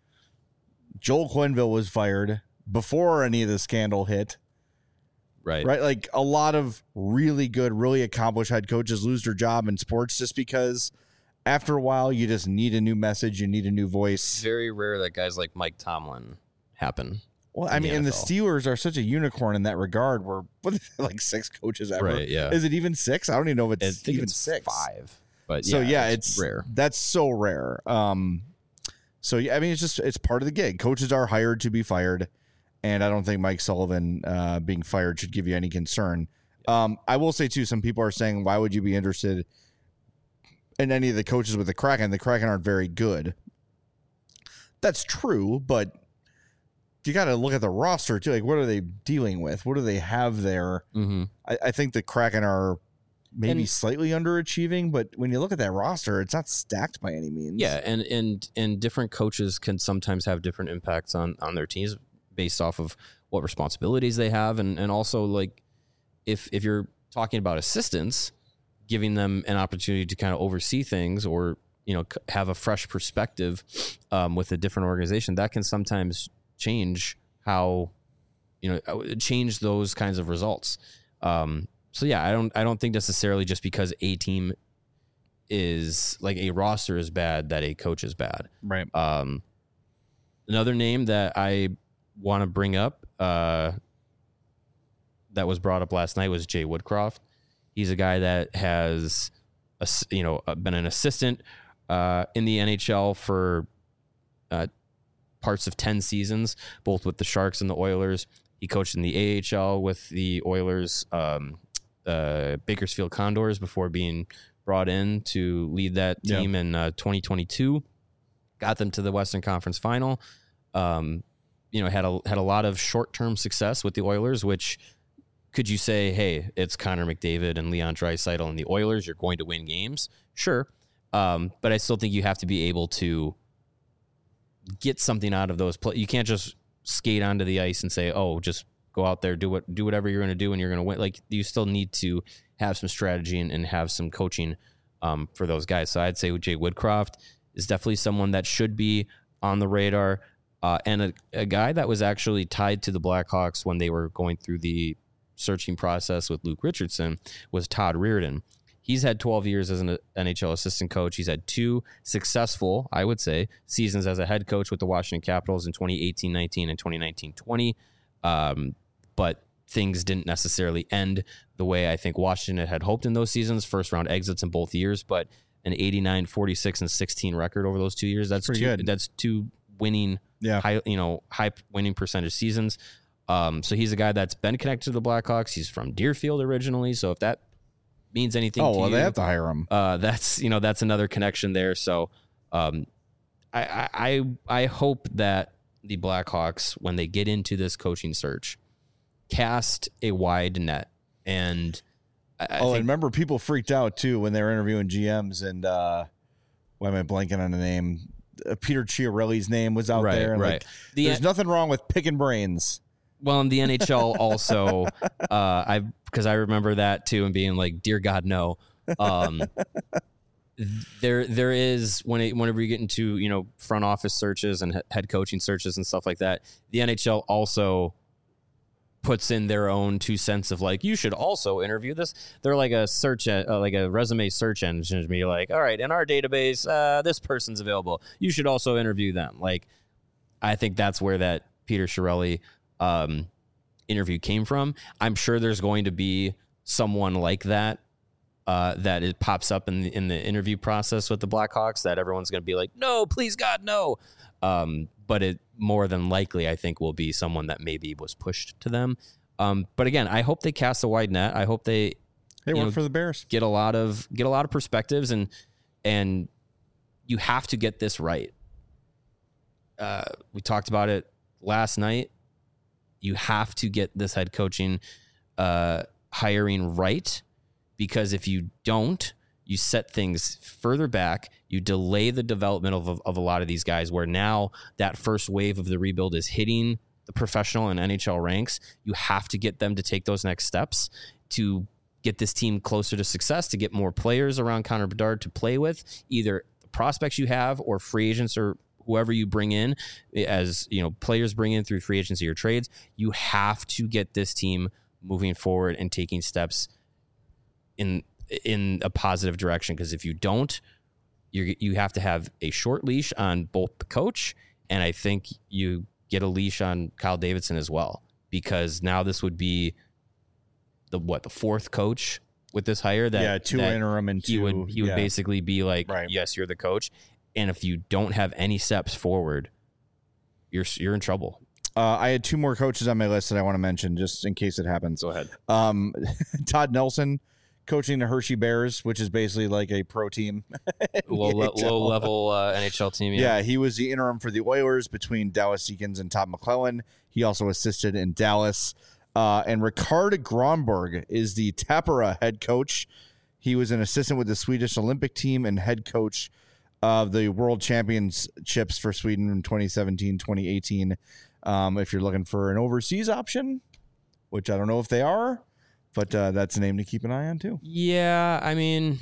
Speaker 1: Joel Quenneville was fired before any of the scandal hit.
Speaker 2: Right.
Speaker 1: Right. Like a lot of really good, really accomplished head coaches lose their job in sports just because after a while you just need a new message. You need a new voice.
Speaker 2: It's very rare that guys like Mike Tomlin happen.
Speaker 1: Well, I
Speaker 2: in
Speaker 1: mean,
Speaker 2: the
Speaker 1: and the
Speaker 2: N F L.
Speaker 1: Steelers are such a unicorn in that regard where what like six coaches ever.
Speaker 2: Right, yeah.
Speaker 1: Is it even six? I don't even know if
Speaker 2: I
Speaker 1: it's
Speaker 2: think
Speaker 1: even
Speaker 2: it's
Speaker 1: six.
Speaker 2: five. But
Speaker 1: So
Speaker 2: yeah,
Speaker 1: yeah,
Speaker 2: it's,
Speaker 1: it's
Speaker 2: rare.
Speaker 1: That's so rare. Um, so yeah, I mean, it's just it's part of the gig. Coaches are hired to be fired, and I don't think Mike Sullivan uh, being fired should give you any concern. Um, I will say too, some people are saying, why would you be interested in any of the coaches with the Kraken? The Kraken aren't very good. That's true, but you got to look at the roster too. Like, what are they dealing with? What do they have there?
Speaker 2: Mm-hmm.
Speaker 1: I, I think the Kraken are maybe
Speaker 2: And-
Speaker 1: slightly underachieving, but when you look at that roster, it's not stacked by any means.
Speaker 2: Yeah, and and and different coaches can sometimes have different impacts on on their teams based off of what responsibilities they have, and and also like if if you're talking about assistants, giving them an opportunity to kind of oversee things or you know c- have a fresh perspective um, with a different organization, that can sometimes change how you know change those kinds of results. Um, so yeah, I don't I don't think necessarily just because a team is like a roster is bad that a coach is bad.
Speaker 1: Right.
Speaker 2: Um, another name that I want to bring up uh, that was brought up last night was Jay Woodcroft. He's a guy that has, a, you know, been an assistant uh, in the N H L for uh, parts of ten seasons, both with the Sharks and the Oilers. He coached in the A H L with the Oilers, um, uh, Bakersfield Condors before being brought in to lead that team yeah. in uh, twenty twenty-two. Got them to the Western Conference Final. Um, you know, had a had a lot of short term success with the Oilers. Which could you say, hey, it's Connor McDavid and Leon Draisaitl and the Oilers, you're going to win games? Sure, um, but I still think you have to be able to get something out of those play. You can't just skate onto the ice and say, oh, just go out there, do what do whatever you're going to do, and you're going to win. Like you still need to have some strategy and, and have some coaching um, for those guys. So I'd say Jay Woodcroft is definitely someone that should be on the radar. Uh, and a, a guy that was actually tied to the Blackhawks when they were going through the searching process with Luke Richardson was Todd Reirden. He's had twelve years as an N H L assistant coach. He's had two successful, I would say, seasons as a head coach with the Washington Capitals in twenty eighteen nineteen and twenty nineteen twenty. Um, but things didn't necessarily end the way I think Washington had hoped in those seasons. First round exits in both years, but an eighty-nine, forty-six, and sixteen record over those two years. That's
Speaker 1: pretty
Speaker 2: two,
Speaker 1: good.
Speaker 2: That's two winning,
Speaker 1: yeah.
Speaker 2: high, you know, high winning percentage seasons. Um, so he's a guy that's been connected to the Blackhawks. He's from Deerfield originally. So if that means anything
Speaker 1: oh,
Speaker 2: to
Speaker 1: well,
Speaker 2: you,
Speaker 1: they have to hire him.
Speaker 2: Uh, that's, you know, that's another connection there. So um, I, I, I hope that the Blackhawks, when they get into this coaching search, cast a wide net. And I, I
Speaker 1: oh,
Speaker 2: think,
Speaker 1: and remember, people freaked out too when they were interviewing G Ms, and uh, why am I blanking on the name? Uh, Peter Chiarelli's name was out
Speaker 2: right,
Speaker 1: there. And
Speaker 2: right.
Speaker 1: like,
Speaker 2: The,
Speaker 1: there's nothing wrong with picking brains.
Speaker 2: Well, in the N H L also, uh, I because I remember that too, and being like, "Dear God, no." Um, there, there is when it, whenever you get into you know front office searches and he- head coaching searches and stuff like that, the N H L also puts in their own two cents of like, you should also interview this. They're like a search, uh, like a resume search engine to be like, all right, in our database, uh, this person's available. You should also interview them. Like, I think that's where that Peter Chiarelli um, interview came from. I'm sure there's going to be someone like that uh, that it pops up in the, in the interview process with the Blackhawks that everyone's going to be like, no, please God, no. Um, but it more than likely, I think, will be someone that maybe was pushed to them. Um, but again, I hope they cast a wide net. I hope they
Speaker 1: They work
Speaker 2: know,
Speaker 1: for the Bears.
Speaker 2: get a lot of get a lot of perspectives, and and you have to get this right. Uh, we talked about it last night. You have to get this head coaching uh, hiring right, because if you don't, you set things further back, you delay the development of, of a lot of these guys, where now that first wave of the rebuild is hitting the professional and N H L ranks. You have to get them to take those next steps to get this team closer to success, to get more players around Connor Bedard to play with, either the prospects you have or free agents or whoever you bring in as, you know, players bring in through free agency or trades. You have to get this team moving forward and taking steps in in a positive direction, because if you don't, you you have to have a short leash on both the coach, and I think you get a leash on Kyle Davidson as well, because now this would be the what the fourth coach with this hire that
Speaker 1: yeah two
Speaker 2: that
Speaker 1: interim and two
Speaker 2: he would he would
Speaker 1: yeah.
Speaker 2: basically be like
Speaker 1: right.
Speaker 2: yes, you're the coach, and if you don't have any steps forward, you're you're in trouble.
Speaker 1: Uh, I had two more coaches on my list that I want to mention just in case it happens.
Speaker 2: Go ahead.
Speaker 1: Um, Todd Nelson coaching the Hershey Bears, which is basically like a pro team.
Speaker 2: low, le- low level uh, N H L team.
Speaker 1: Yeah. yeah, he was the interim for the Oilers between Dallas Eakins and Todd McClellan. He also assisted in Dallas. Uh, and Ricard Gronberg is the Tappara head coach. He was an assistant with the Swedish Olympic team and head coach of the World Championships for Sweden in twenty seventeen, twenty eighteen. Um, if you're looking for an overseas option, which I don't know if they are, but uh, that's a name to keep an eye on too.
Speaker 2: Yeah, I mean,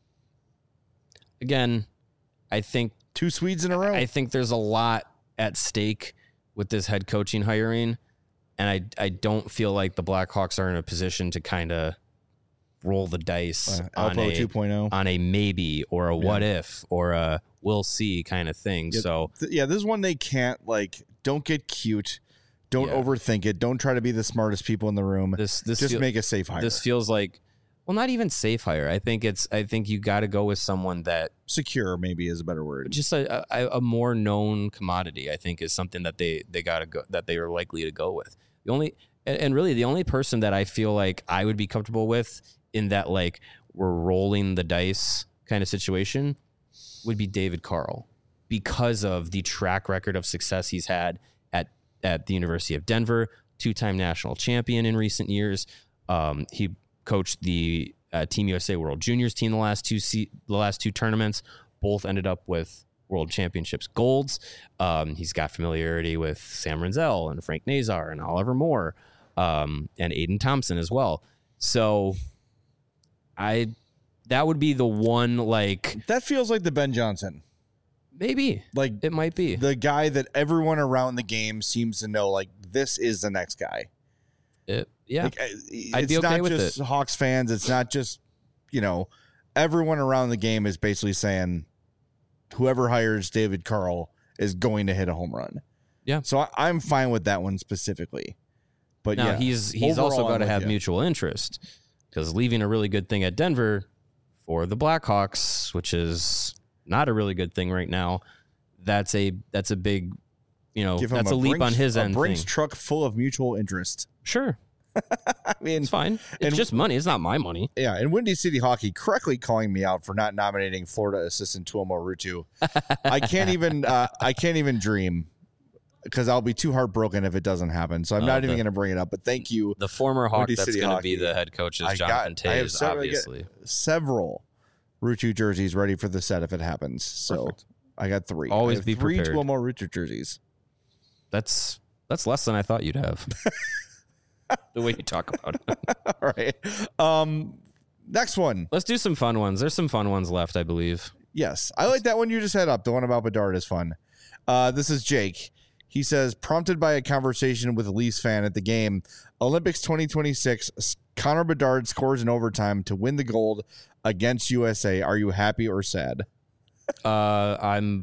Speaker 2: again, I think
Speaker 1: two Swedes in a row.
Speaker 2: I think there's a lot at stake with this head coaching hiring, and I I don't feel like the Blackhawks are in a position to kind of roll the dice
Speaker 1: uh,
Speaker 2: on a
Speaker 1: two point oh
Speaker 2: on a maybe or a what yeah. if or a we'll see kind of thing.
Speaker 1: Yeah,
Speaker 2: so
Speaker 1: th- yeah, this is one they can't like. Don't get cute. Don't
Speaker 2: yeah.
Speaker 1: overthink it. Don't try to be the smartest people in the room.
Speaker 2: This this
Speaker 1: just
Speaker 2: feel,
Speaker 1: make a safe hire.
Speaker 2: This feels like, well, not even safe hire. I think it's. I think you got to go with someone that
Speaker 1: secure maybe is a better word.
Speaker 2: Just a, a, a more known commodity. I think is something that they they got to go that they are likely to go with. The only and, and really the only person that I feel like I would be comfortable with in that like we're rolling the dice kind of situation would be David Carl, because of the track record of success he's had at, at the University of Denver, two-time national champion in recent years. Um, he coached the uh, Team U S A World Juniors team the last two se- the last two tournaments. Both ended up with World Championships golds. Um, he's got familiarity with Sam Renzel and Frank Nazar and Oliver Moore um, and Aiden Thompson as well. So I that would be the one, like,
Speaker 1: that feels like the Ben Johnson.
Speaker 2: Maybe
Speaker 1: like
Speaker 2: it might be
Speaker 1: the guy that everyone around the game seems to know. Like, this is the next guy.
Speaker 2: It, yeah,
Speaker 1: like,
Speaker 2: I'd
Speaker 1: it's
Speaker 2: be okay
Speaker 1: not
Speaker 2: with
Speaker 1: just
Speaker 2: it.
Speaker 1: Hawks fans. It's not just, you know, everyone around the game is basically saying whoever hires David Carl is going to hit a home run.
Speaker 2: Yeah.
Speaker 1: So I, I'm fine with that one specifically. But
Speaker 2: now
Speaker 1: yeah,
Speaker 2: he's he's
Speaker 1: overall,
Speaker 2: also got
Speaker 1: I'm
Speaker 2: to
Speaker 1: with
Speaker 2: have
Speaker 1: you.
Speaker 2: mutual interest, because leaving a really good thing at Denver for the Blackhawks, which is not a really good thing right now, that's a that's a big, you know,
Speaker 1: Give him
Speaker 2: that's a,
Speaker 1: a
Speaker 2: leap
Speaker 1: Brinks,
Speaker 2: on his
Speaker 1: a
Speaker 2: end.
Speaker 1: Brinks
Speaker 2: thing.
Speaker 1: truck full of mutual interest.
Speaker 2: Sure,
Speaker 1: I mean,
Speaker 2: it's fine. It's
Speaker 1: and-
Speaker 2: just money. It's not my money.
Speaker 1: Yeah, and Windy City Hockey correctly calling me out for not nominating Florida assistant Tuomo Ruutu. I can't even uh, I can't even dream, because I'll be too heartbroken if it doesn't happen. So I'm
Speaker 2: Uh,
Speaker 1: not
Speaker 2: the-
Speaker 1: even going to bring it up. But thank you.
Speaker 2: The former Hawk
Speaker 1: Windy
Speaker 2: that's
Speaker 1: City
Speaker 2: going to be
Speaker 1: Hockey.
Speaker 2: the head coach is
Speaker 1: I
Speaker 2: Jonathan
Speaker 1: got- I have
Speaker 2: Toews,
Speaker 1: several-
Speaker 2: obviously.
Speaker 1: Several Ruutu jerseys ready for the set if it happens. So
Speaker 2: Perfect.
Speaker 1: I got three.
Speaker 2: Always
Speaker 1: I have
Speaker 2: be
Speaker 1: three
Speaker 2: prepared.
Speaker 1: Tuomo Ruutu jerseys.
Speaker 2: That's that's less than I thought you'd have. The way you talk about it.
Speaker 1: All right. Um, next one.
Speaker 2: Let's do some fun ones. There's some fun ones left, I believe.
Speaker 1: Yes, I like that one you just had up. The one about Bedard is fun. Uh, this is Jake. He says, prompted by a conversation with a Leafs fan at the game, Olympics twenty twenty-six, Connor Bedard scores in overtime to win the gold against U S A. Are you happy or sad?
Speaker 2: Uh, I'm,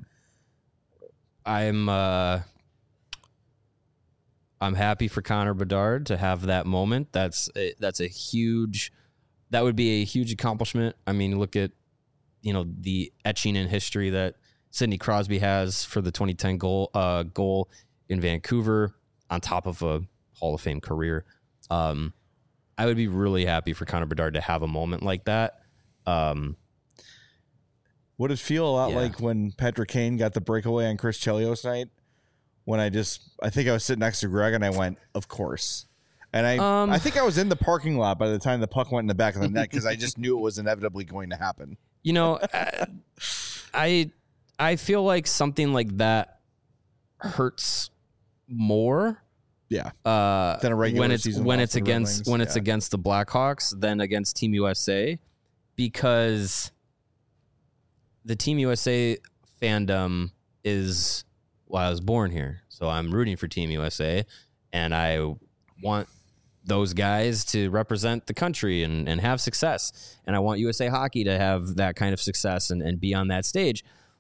Speaker 2: I'm, uh, I'm happy for Connor Bedard to have that moment. That's a, that's a huge, that would be a huge accomplishment. I mean, look at, you know, the etching in history that Sidney Crosby has for the twenty ten goal, uh, goal in Vancouver, on top of a Hall of Fame career. Um, I would be really happy for Connor Bedard to have a moment like that. Um,
Speaker 1: Would it feel a lot
Speaker 2: Yeah.
Speaker 1: like when Patrick Kane got the breakaway on Chris Chelios night? When I just, I think I was sitting next to Greg and I went, of course. And I,
Speaker 2: Um,
Speaker 1: I think I was in the parking lot by the time the puck went in the back of the net because I just knew it was inevitably going to happen.
Speaker 2: You know, I I feel like something like that hurts more.
Speaker 1: Yeah.
Speaker 2: Uh,
Speaker 1: Than a regular
Speaker 2: when it's
Speaker 1: season
Speaker 2: when
Speaker 1: loss
Speaker 2: it's
Speaker 1: for the Red
Speaker 2: against
Speaker 1: Wings,
Speaker 2: when it's
Speaker 1: yeah.
Speaker 2: against the Blackhawks than against Team U S A, because the Team U S A fandom is, well, I was born here, so I'm rooting for Team U S A, and I want those guys to represent the country and, and have success. And I want U S A Hockey to have that kind of success and, and be on that stage.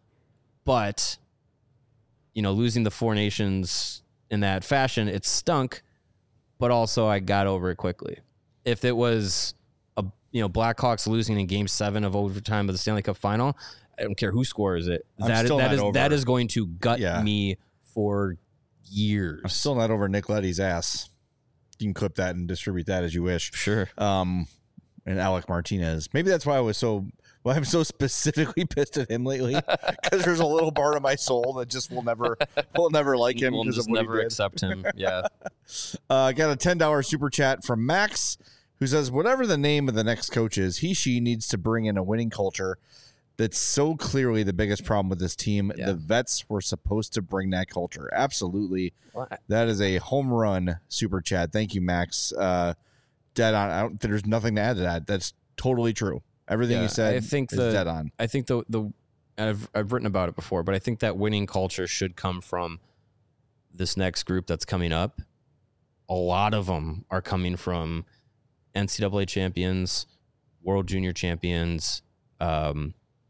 Speaker 2: But, you know, losing the Four Nations in that fashion, it stunk, but also I got over it quickly. If it was, a you know, Blackhawks losing in game seven of overtime of the Stanley Cup final, I don't care who scores it.
Speaker 1: I'm
Speaker 2: That,
Speaker 1: still
Speaker 2: that
Speaker 1: not
Speaker 2: is
Speaker 1: over.
Speaker 2: that is going to gut
Speaker 1: Yeah.
Speaker 2: me for years.
Speaker 1: I'm still not over Nick Leddy's ass. You can clip that and distribute that as you wish.
Speaker 2: Sure.
Speaker 1: Um, and Alec Martinez. Maybe that's why I was so. Well, I'm so specifically pissed at him lately because there's a little part of my soul that just will never, will never like him
Speaker 2: We'll
Speaker 1: because
Speaker 2: just
Speaker 1: of what
Speaker 2: never
Speaker 1: he did.
Speaker 2: accept him. Yeah.
Speaker 1: Uh, I got a ten dollars super chat from Max, who says, "Whatever the name of the next coach is, he she needs to bring in a winning culture. That's so clearly the biggest problem with this team.
Speaker 2: Yeah.
Speaker 1: The vets were supposed to bring that culture. Absolutely,
Speaker 2: Well, I-
Speaker 1: that is a home run super chat. Thank you, Max. Uh, dead on. I don't, there's nothing to add to that. That's totally true. Everything
Speaker 2: Yeah,
Speaker 1: you said
Speaker 2: I think
Speaker 1: is
Speaker 2: the-
Speaker 1: dead on.
Speaker 2: I think the the I've I've written about it before, but I think that winning culture should come from this next group that's coming up. A lot of them are coming from N C double A champions, World Junior champions, um,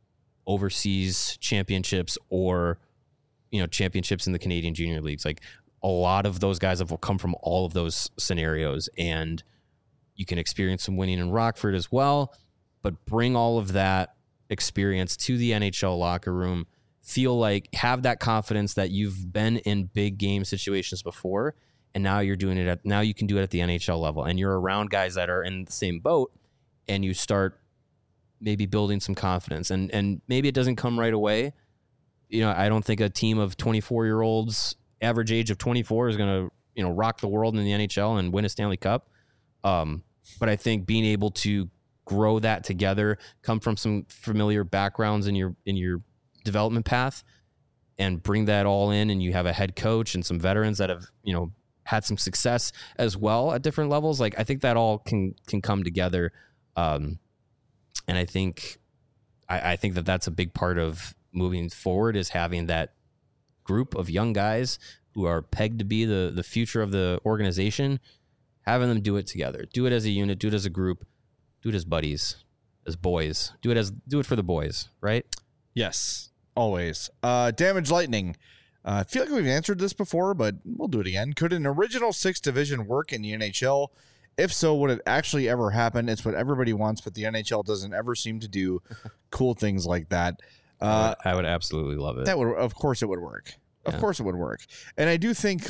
Speaker 2: overseas championships, or you know championships in the Canadian Junior Leagues. Like a lot of those guys have come from all of those scenarios, and you can experience some winning in Rockford as well. But bring all of that experience to the N H L locker room. Feel like, have that confidence that you've been in big game situations before, and now you're doing it at, now you can do it at the N H L level, and you're around guys that are in the same boat, and you start maybe building some confidence. And and maybe it doesn't come right away. You know, I don't think a team of twenty-four year olds, average age of twenty-four, is going to, you know, rock the world in the N H L and win a Stanley Cup. Um, but I think being able to grow that together, come from some familiar backgrounds in your in your development path, and bring that all in, and you have a head coach and some veterans that have, you know, had some success as well at different levels. Like I think that all can can come together, um, and I think I, I think that that's a big part of moving forward, is having that group of young guys who are pegged to be the the future of the organization, having them do it together, do it as a unit, do it as a group. Do it as buddies, as boys. Do it as do it for the boys, right?
Speaker 1: Yes, always. Uh, Damage Lightning. Uh, I feel like we've answered this before, but we'll do it again. Could an original six division work in the N H L? If so, would it actually ever happen? It's what everybody wants, but the N H L doesn't ever seem to do cool things like that.
Speaker 2: I,
Speaker 1: Uh,
Speaker 2: would, I would absolutely love it.
Speaker 1: that would, of course, it would work. Of
Speaker 2: Yeah.
Speaker 1: course, it would work. And I do think,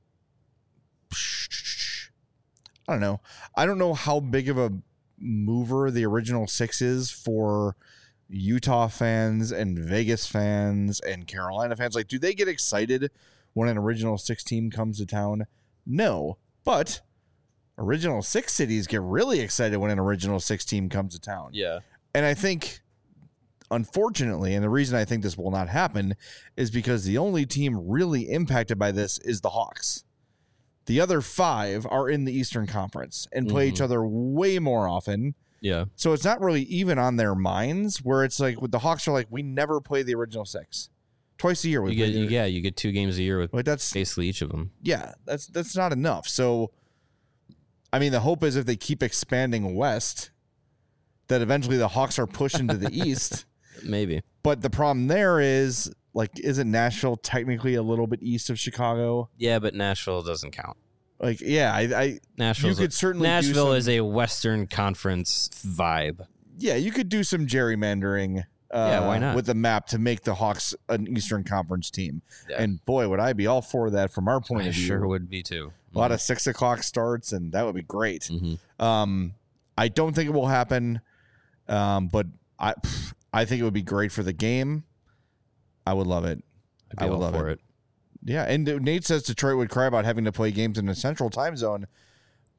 Speaker 1: I don't know. I don't know how big of a mover the original six is for Utah fans and Vegas fans and Carolina fans. Like, do they get excited when an original six team comes to town? No, but original six cities get really excited when an original six team comes to town.
Speaker 2: yeah.
Speaker 1: And I think, unfortunately, and the reason I think this will not happen is because the only team really impacted by this is the Hawks. The other five are in the Eastern Conference and play each
Speaker 2: Mhm.
Speaker 1: other way more often.
Speaker 2: Yeah.
Speaker 1: So it's not really even on their minds, where it's like with the Hawks are like, we never play the original six. Twice a year. We
Speaker 2: You get
Speaker 1: play
Speaker 2: you,
Speaker 1: the-
Speaker 2: yeah, you get two games a year with
Speaker 1: Like that's
Speaker 2: basically each of them.
Speaker 1: yeah, that's that's not enough. So I mean, the hope is if they keep expanding west, that eventually the Hawks are pushed into the east.
Speaker 2: Maybe.
Speaker 1: But the problem there is, like, isn't Nashville technically a little bit east of Chicago?
Speaker 2: Yeah, but Nashville doesn't count.
Speaker 1: Like, yeah, I, I
Speaker 2: Nashville
Speaker 1: you could certainly do
Speaker 2: Nashville
Speaker 1: some-
Speaker 2: is a Western Conference vibe.
Speaker 1: yeah, you could do some gerrymandering. Uh,
Speaker 2: Yeah, why not?
Speaker 1: With the map to make the Hawks an Eastern Conference team.
Speaker 2: Yeah.
Speaker 1: And boy, would I be all for that from our point
Speaker 2: I
Speaker 1: of view.
Speaker 2: sure would be too.
Speaker 1: A lot of six o'clock starts, and that would be great.
Speaker 2: Mm-hmm.
Speaker 1: Um, I don't think it will happen, um, but I, I think it would be great for the game. I would love it.
Speaker 2: I'd be
Speaker 1: I would
Speaker 2: all
Speaker 1: love
Speaker 2: for
Speaker 1: it.
Speaker 2: it.
Speaker 1: Yeah, and Nate says Detroit would cry about having to play games in the Central Time Zone.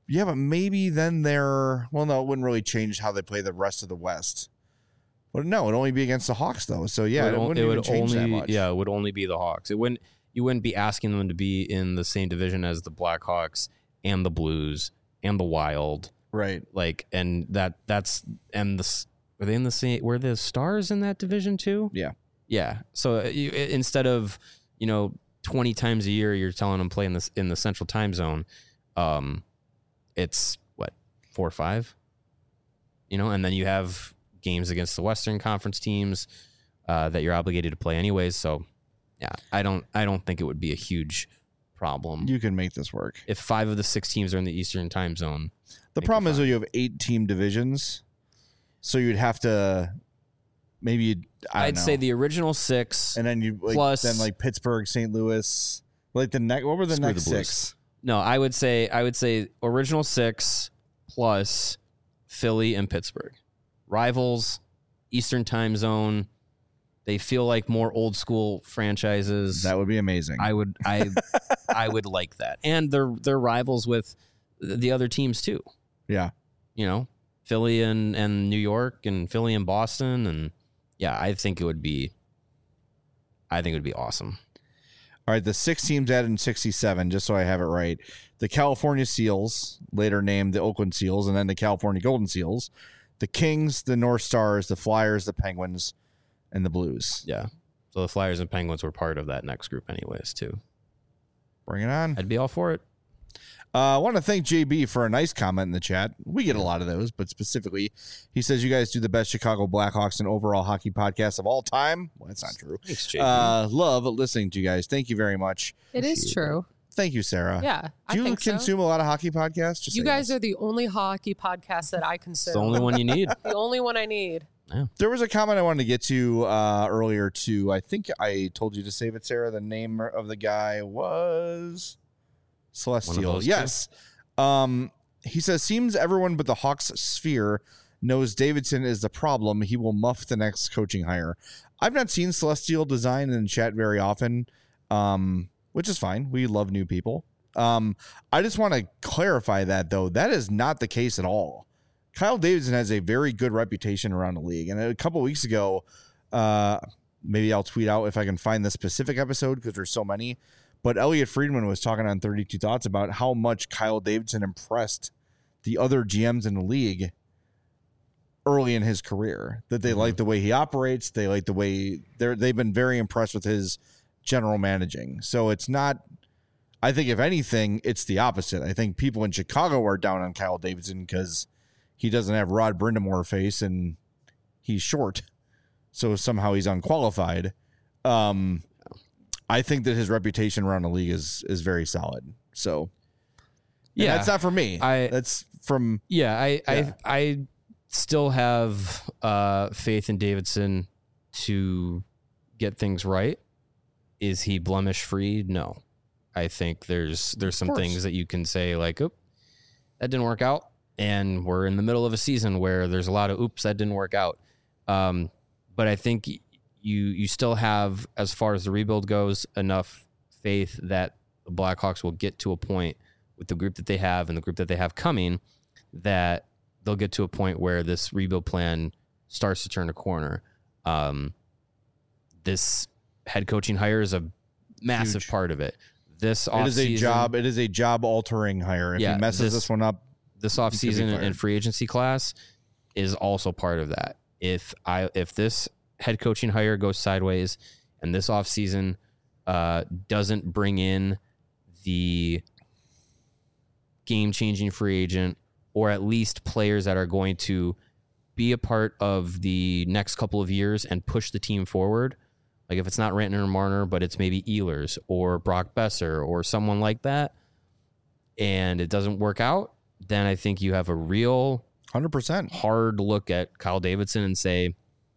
Speaker 1: Yeah, but maybe then they're well. No, it wouldn't really change how they play the rest of the West. But no, it'd only be against the Hawks though. So yeah, it,
Speaker 2: it,
Speaker 1: wouldn't
Speaker 2: it
Speaker 1: even
Speaker 2: would
Speaker 1: change
Speaker 2: only
Speaker 1: that much.
Speaker 2: yeah, it would only be the Hawks. It wouldn't you wouldn't be asking them to be in the same division as the Blackhawks and the Blues and the Wild.
Speaker 1: Right.
Speaker 2: Like, and that that's and the were they in the same? Were the Stars in that division too?
Speaker 1: Yeah.
Speaker 2: Yeah. So you, instead of you know twenty times a year, you're telling them play in this in the Central Time Zone. Um, it's what four or five. You know, and then you have games against the Western Conference teams uh, that you're obligated to play anyways. So, yeah, I don't I don't think it would be a huge problem.
Speaker 1: You can make this work.
Speaker 2: If five of the six teams are in the Eastern Time Zone.
Speaker 1: The problem is that you have eight team divisions, so you'd have to maybe you'd, I don't
Speaker 2: I'd
Speaker 1: know.
Speaker 2: say the original six,
Speaker 1: and then you like,
Speaker 2: plus-
Speaker 1: then like Pittsburgh, Saint Louis, like the next. What were the
Speaker 2: Screw
Speaker 1: next
Speaker 2: the Blues.
Speaker 1: six?
Speaker 2: no, I would say I would say original six plus Philly and Pittsburgh, rivals, Eastern Time Zone. They feel like more old school franchises.
Speaker 1: That would be amazing.
Speaker 2: I would I I would like that, and they're they're rivals with the other teams too.
Speaker 1: yeah.
Speaker 2: You know, Philly and, and New York and Philly and Boston. And yeah, I think it would be, I think it would be awesome.
Speaker 1: All right, the six teams added in sixty-seven, just so I have it right. The California Seals, later named the Oakland Seals, and then the California Golden Seals. The Kings, the North Stars, the Flyers, the Penguins, and the Blues.
Speaker 2: Yeah. So the Flyers and Penguins were part of that next group anyways, too.
Speaker 1: Bring it on.
Speaker 2: I'd be all for it.
Speaker 1: Uh, I want to thank J B for a nice comment in the chat. We get a lot of those, but specifically, he says you guys do the best Chicago Blackhawks and overall hockey podcast of all time. Well, that's not true.
Speaker 2: Thanks, J B.
Speaker 1: Uh, love listening to you guys. Thank you very much.
Speaker 3: It is true.
Speaker 1: Thank you, Sarah.
Speaker 3: Yeah, I
Speaker 1: Do you
Speaker 3: think so.
Speaker 1: consume a lot of hockey podcasts? Just
Speaker 3: You
Speaker 1: say
Speaker 3: guys
Speaker 1: yes.
Speaker 3: are the only hockey podcast that I consume.
Speaker 2: It's the only one you need.
Speaker 3: The only one I need.
Speaker 1: There was a comment I wanted to get to uh, earlier, too. I think I told you to save it, Sarah. The name of the guy was Celestial.
Speaker 2: those
Speaker 1: Yes. Um, he says, seems everyone but the Hawks sphere knows Davidson is the problem. He will muff the next coaching hire. I've not seen Celestial design in chat very often, um, which is fine. We love new people. Um, I just want to clarify that, though. That is not the case at all. Kyle Davidson has a very good reputation around the league. And a couple weeks ago, uh, maybe I'll tweet out if I can find the specific episode because there's so many. But Elliot Friedman was talking on thirty-two Thoughts about how much Kyle Davidson impressed the other G Ms in the league early in his career. That they
Speaker 2: Mm-hmm.
Speaker 1: like the way he operates. They like the way they're they've been very impressed with his general managing. So it's not. I think if anything, it's the opposite. I think people in Chicago are down on Kyle Davidson because he doesn't have Rod Brindamore face and he's short, so somehow he's unqualified. Um, I think that his reputation around the league is is very solid. So, and
Speaker 2: Yeah.
Speaker 1: that's not for me.
Speaker 2: I-
Speaker 1: that's from
Speaker 2: Yeah, I,
Speaker 1: Yeah.
Speaker 2: I I still have uh, faith in Davidson to get things right. Is he blemish free? No. I think there's there's some
Speaker 1: course.
Speaker 2: things that you can say like, "Oop, that didn't work out," and we're in the middle of a season where there's a lot of "oops, that didn't work out." Um, but I think you you still have, as far as the rebuild goes, enough faith that the Blackhawks will get to a point with the group that they have and the group that they have coming that they'll get to a point where this rebuild plan starts to turn a corner. Um, this head coaching hire is a massive
Speaker 1: Huge.
Speaker 2: part of it. This
Speaker 1: it is a
Speaker 2: offseason-
Speaker 1: job. It is a job altering hire. If
Speaker 2: Yeah,
Speaker 1: he messes
Speaker 2: this-
Speaker 1: this, one up,
Speaker 2: this
Speaker 1: could be
Speaker 2: offseason
Speaker 1: fired.
Speaker 2: and free agency class is also part of that. If I if this head coaching hire goes sideways and this offseason uh, doesn't bring in the game-changing free agent or at least players that are going to be a part of the next couple of years and push the team forward, like if it's not Rantanen or Marner, but it's maybe Ehlers or Brock Besser or someone like that, and it doesn't work out, then I think you have a real
Speaker 1: hundred percent.
Speaker 2: hard look at Kyle Davidson and say,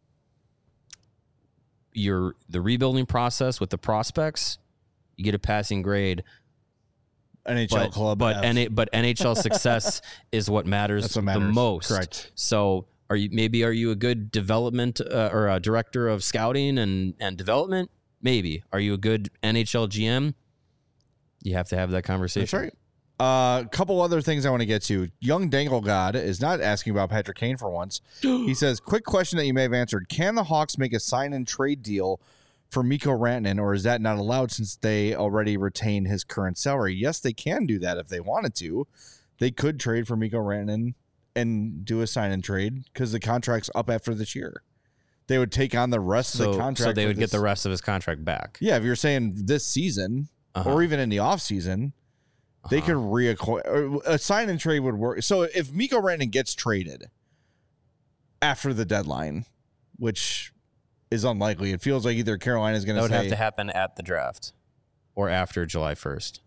Speaker 2: your the rebuilding process with the prospects, you get a passing grade,
Speaker 1: N H L
Speaker 2: but
Speaker 1: club,
Speaker 2: but
Speaker 1: F.
Speaker 2: N- but N H L success is what matters,
Speaker 1: That's what
Speaker 2: the
Speaker 1: matters.
Speaker 2: most.
Speaker 1: Correct.
Speaker 2: So are you maybe are you a good development uh, or a director of scouting and and development? Maybe. Are you a good N H L G M? You have to have that conversation.
Speaker 1: That's right. A uh, couple other things I want to get to. Young Dangle God is not asking about Patrick Kane for once. He says, quick question that you may have answered. Can the Hawks make a sign and trade deal for Mikko Rantanen, or is that not allowed since they already retain his current salary? Yes, they can do that if they wanted to. They could trade for Mikko Rantanen and do a sign and trade because the contract's up after this year. They would take on the rest
Speaker 2: so,
Speaker 1: of the contract.
Speaker 2: So they would
Speaker 1: this.
Speaker 2: get the rest of his contract back.
Speaker 1: Yeah, if you're saying this season uh-huh. or even in the offseason, uh-huh. they could reacquire. A sign and trade would work. So if Mikko Rantanen gets traded after the deadline, which is unlikely, it feels like either Carolina is going to say.
Speaker 2: That would have to happen at the draft or after July first.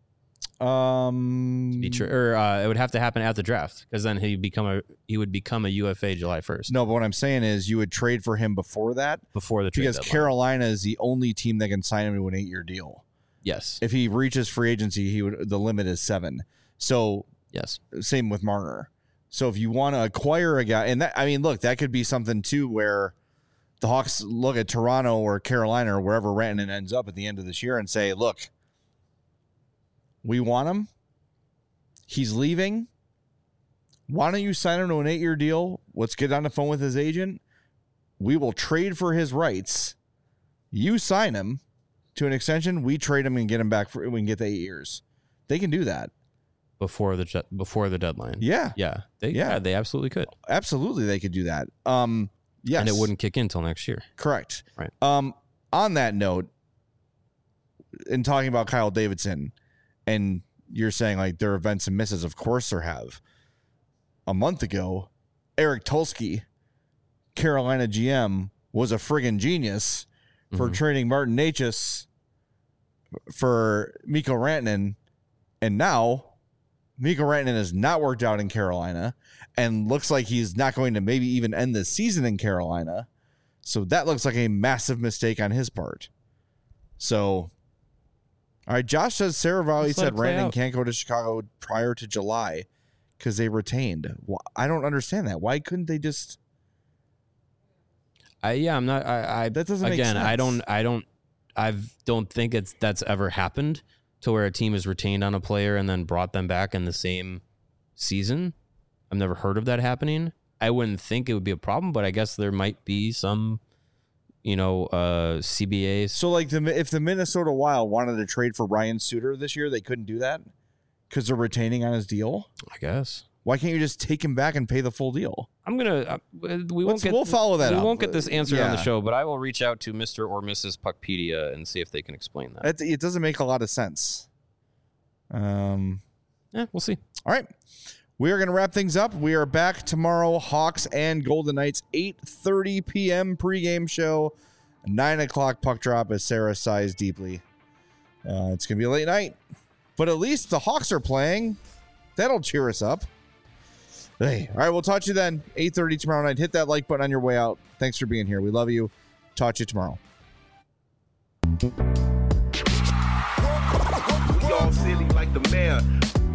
Speaker 1: Um,
Speaker 2: to be true, or uh, it would have to happen at the draft because then he become a he would become a U F A July first.
Speaker 1: No, but what I'm saying is you would trade for him before that,
Speaker 2: before the trade
Speaker 1: because
Speaker 2: deadline.
Speaker 1: Carolina is the only team that can sign him to an eight year deal.
Speaker 2: Yes,
Speaker 1: if he reaches free agency, he would. The limit is seven. So
Speaker 2: yes,
Speaker 1: same with Marner. So if you want to acquire a guy, and that I mean, look, that could be something too where the Hawks look at Toronto or Carolina or wherever Rantanen ends up at the end of this year and say, look, we want him. He's leaving. Why don't you sign him to an eight-year deal? Let's get on the phone with his agent. We will trade for his rights. You sign him to an extension. We trade him and get him back for. We can get the eight years. They can do that
Speaker 2: before the before the deadline.
Speaker 1: Yeah,
Speaker 2: yeah, they, yeah. yeah, they absolutely could.
Speaker 1: Absolutely, they could do that. Um, yes,
Speaker 2: and it wouldn't kick in until next year.
Speaker 1: Correct.
Speaker 2: Right.
Speaker 1: Um, on that note, in talking about Kyle Davidson, and you're saying like there are events and misses. Of course there have. A month ago, Eric Tulsky, Carolina G M, was a friggin' genius for mm-hmm. trading Martin Necas for Mikko Rantanen. And now Mikko Rantanen has not worked out in Carolina and looks like he's not going to maybe even end the season in Carolina. So that looks like a massive mistake on his part. So... All right, Josh says Sarah Valley said Rantanen can't go to Chicago prior to July because they retained. Well, I don't understand that. Why couldn't they just?
Speaker 2: I yeah, I'm not. I, I
Speaker 1: that doesn't make
Speaker 2: again.
Speaker 1: sense.
Speaker 2: I don't. I don't. I don't think it's that's ever happened to where a team is retained on a player and then brought them back in the same season. I've never heard of that happening. I wouldn't think it would be a problem, but I guess there might be some. You know, uh, C B As.
Speaker 1: So, like, the if the Minnesota Wild wanted to trade for Ryan Suter this year, they couldn't do that because they're retaining on his deal.
Speaker 2: I guess.
Speaker 1: Why can't you just take him back and pay the full deal?
Speaker 2: I'm gonna. Uh, we won't
Speaker 1: Let's,
Speaker 2: get.
Speaker 1: We'll follow that.
Speaker 2: We
Speaker 1: up.
Speaker 2: won't get this answered
Speaker 1: yeah.
Speaker 2: on the show, but I will reach out to Mister or Missus Puckpedia and see if they can explain that.
Speaker 1: It, it doesn't make a lot of sense. Um.
Speaker 2: Yeah, we'll see.
Speaker 1: All right. We are going to wrap things up. We are back tomorrow. Hawks and Golden Knights, eight thirty p.m. pregame show. Nine o'clock puck drop as Sarah sighs deeply. Uh, it's going to be a late night, but at least the Hawks are playing. That'll cheer us up. Hey, all right, we'll talk to you then. eight thirty tomorrow night. Hit that like button on your way out. Thanks for being here. We love you. Talk to you tomorrow.
Speaker 4: We all silly like the mayor.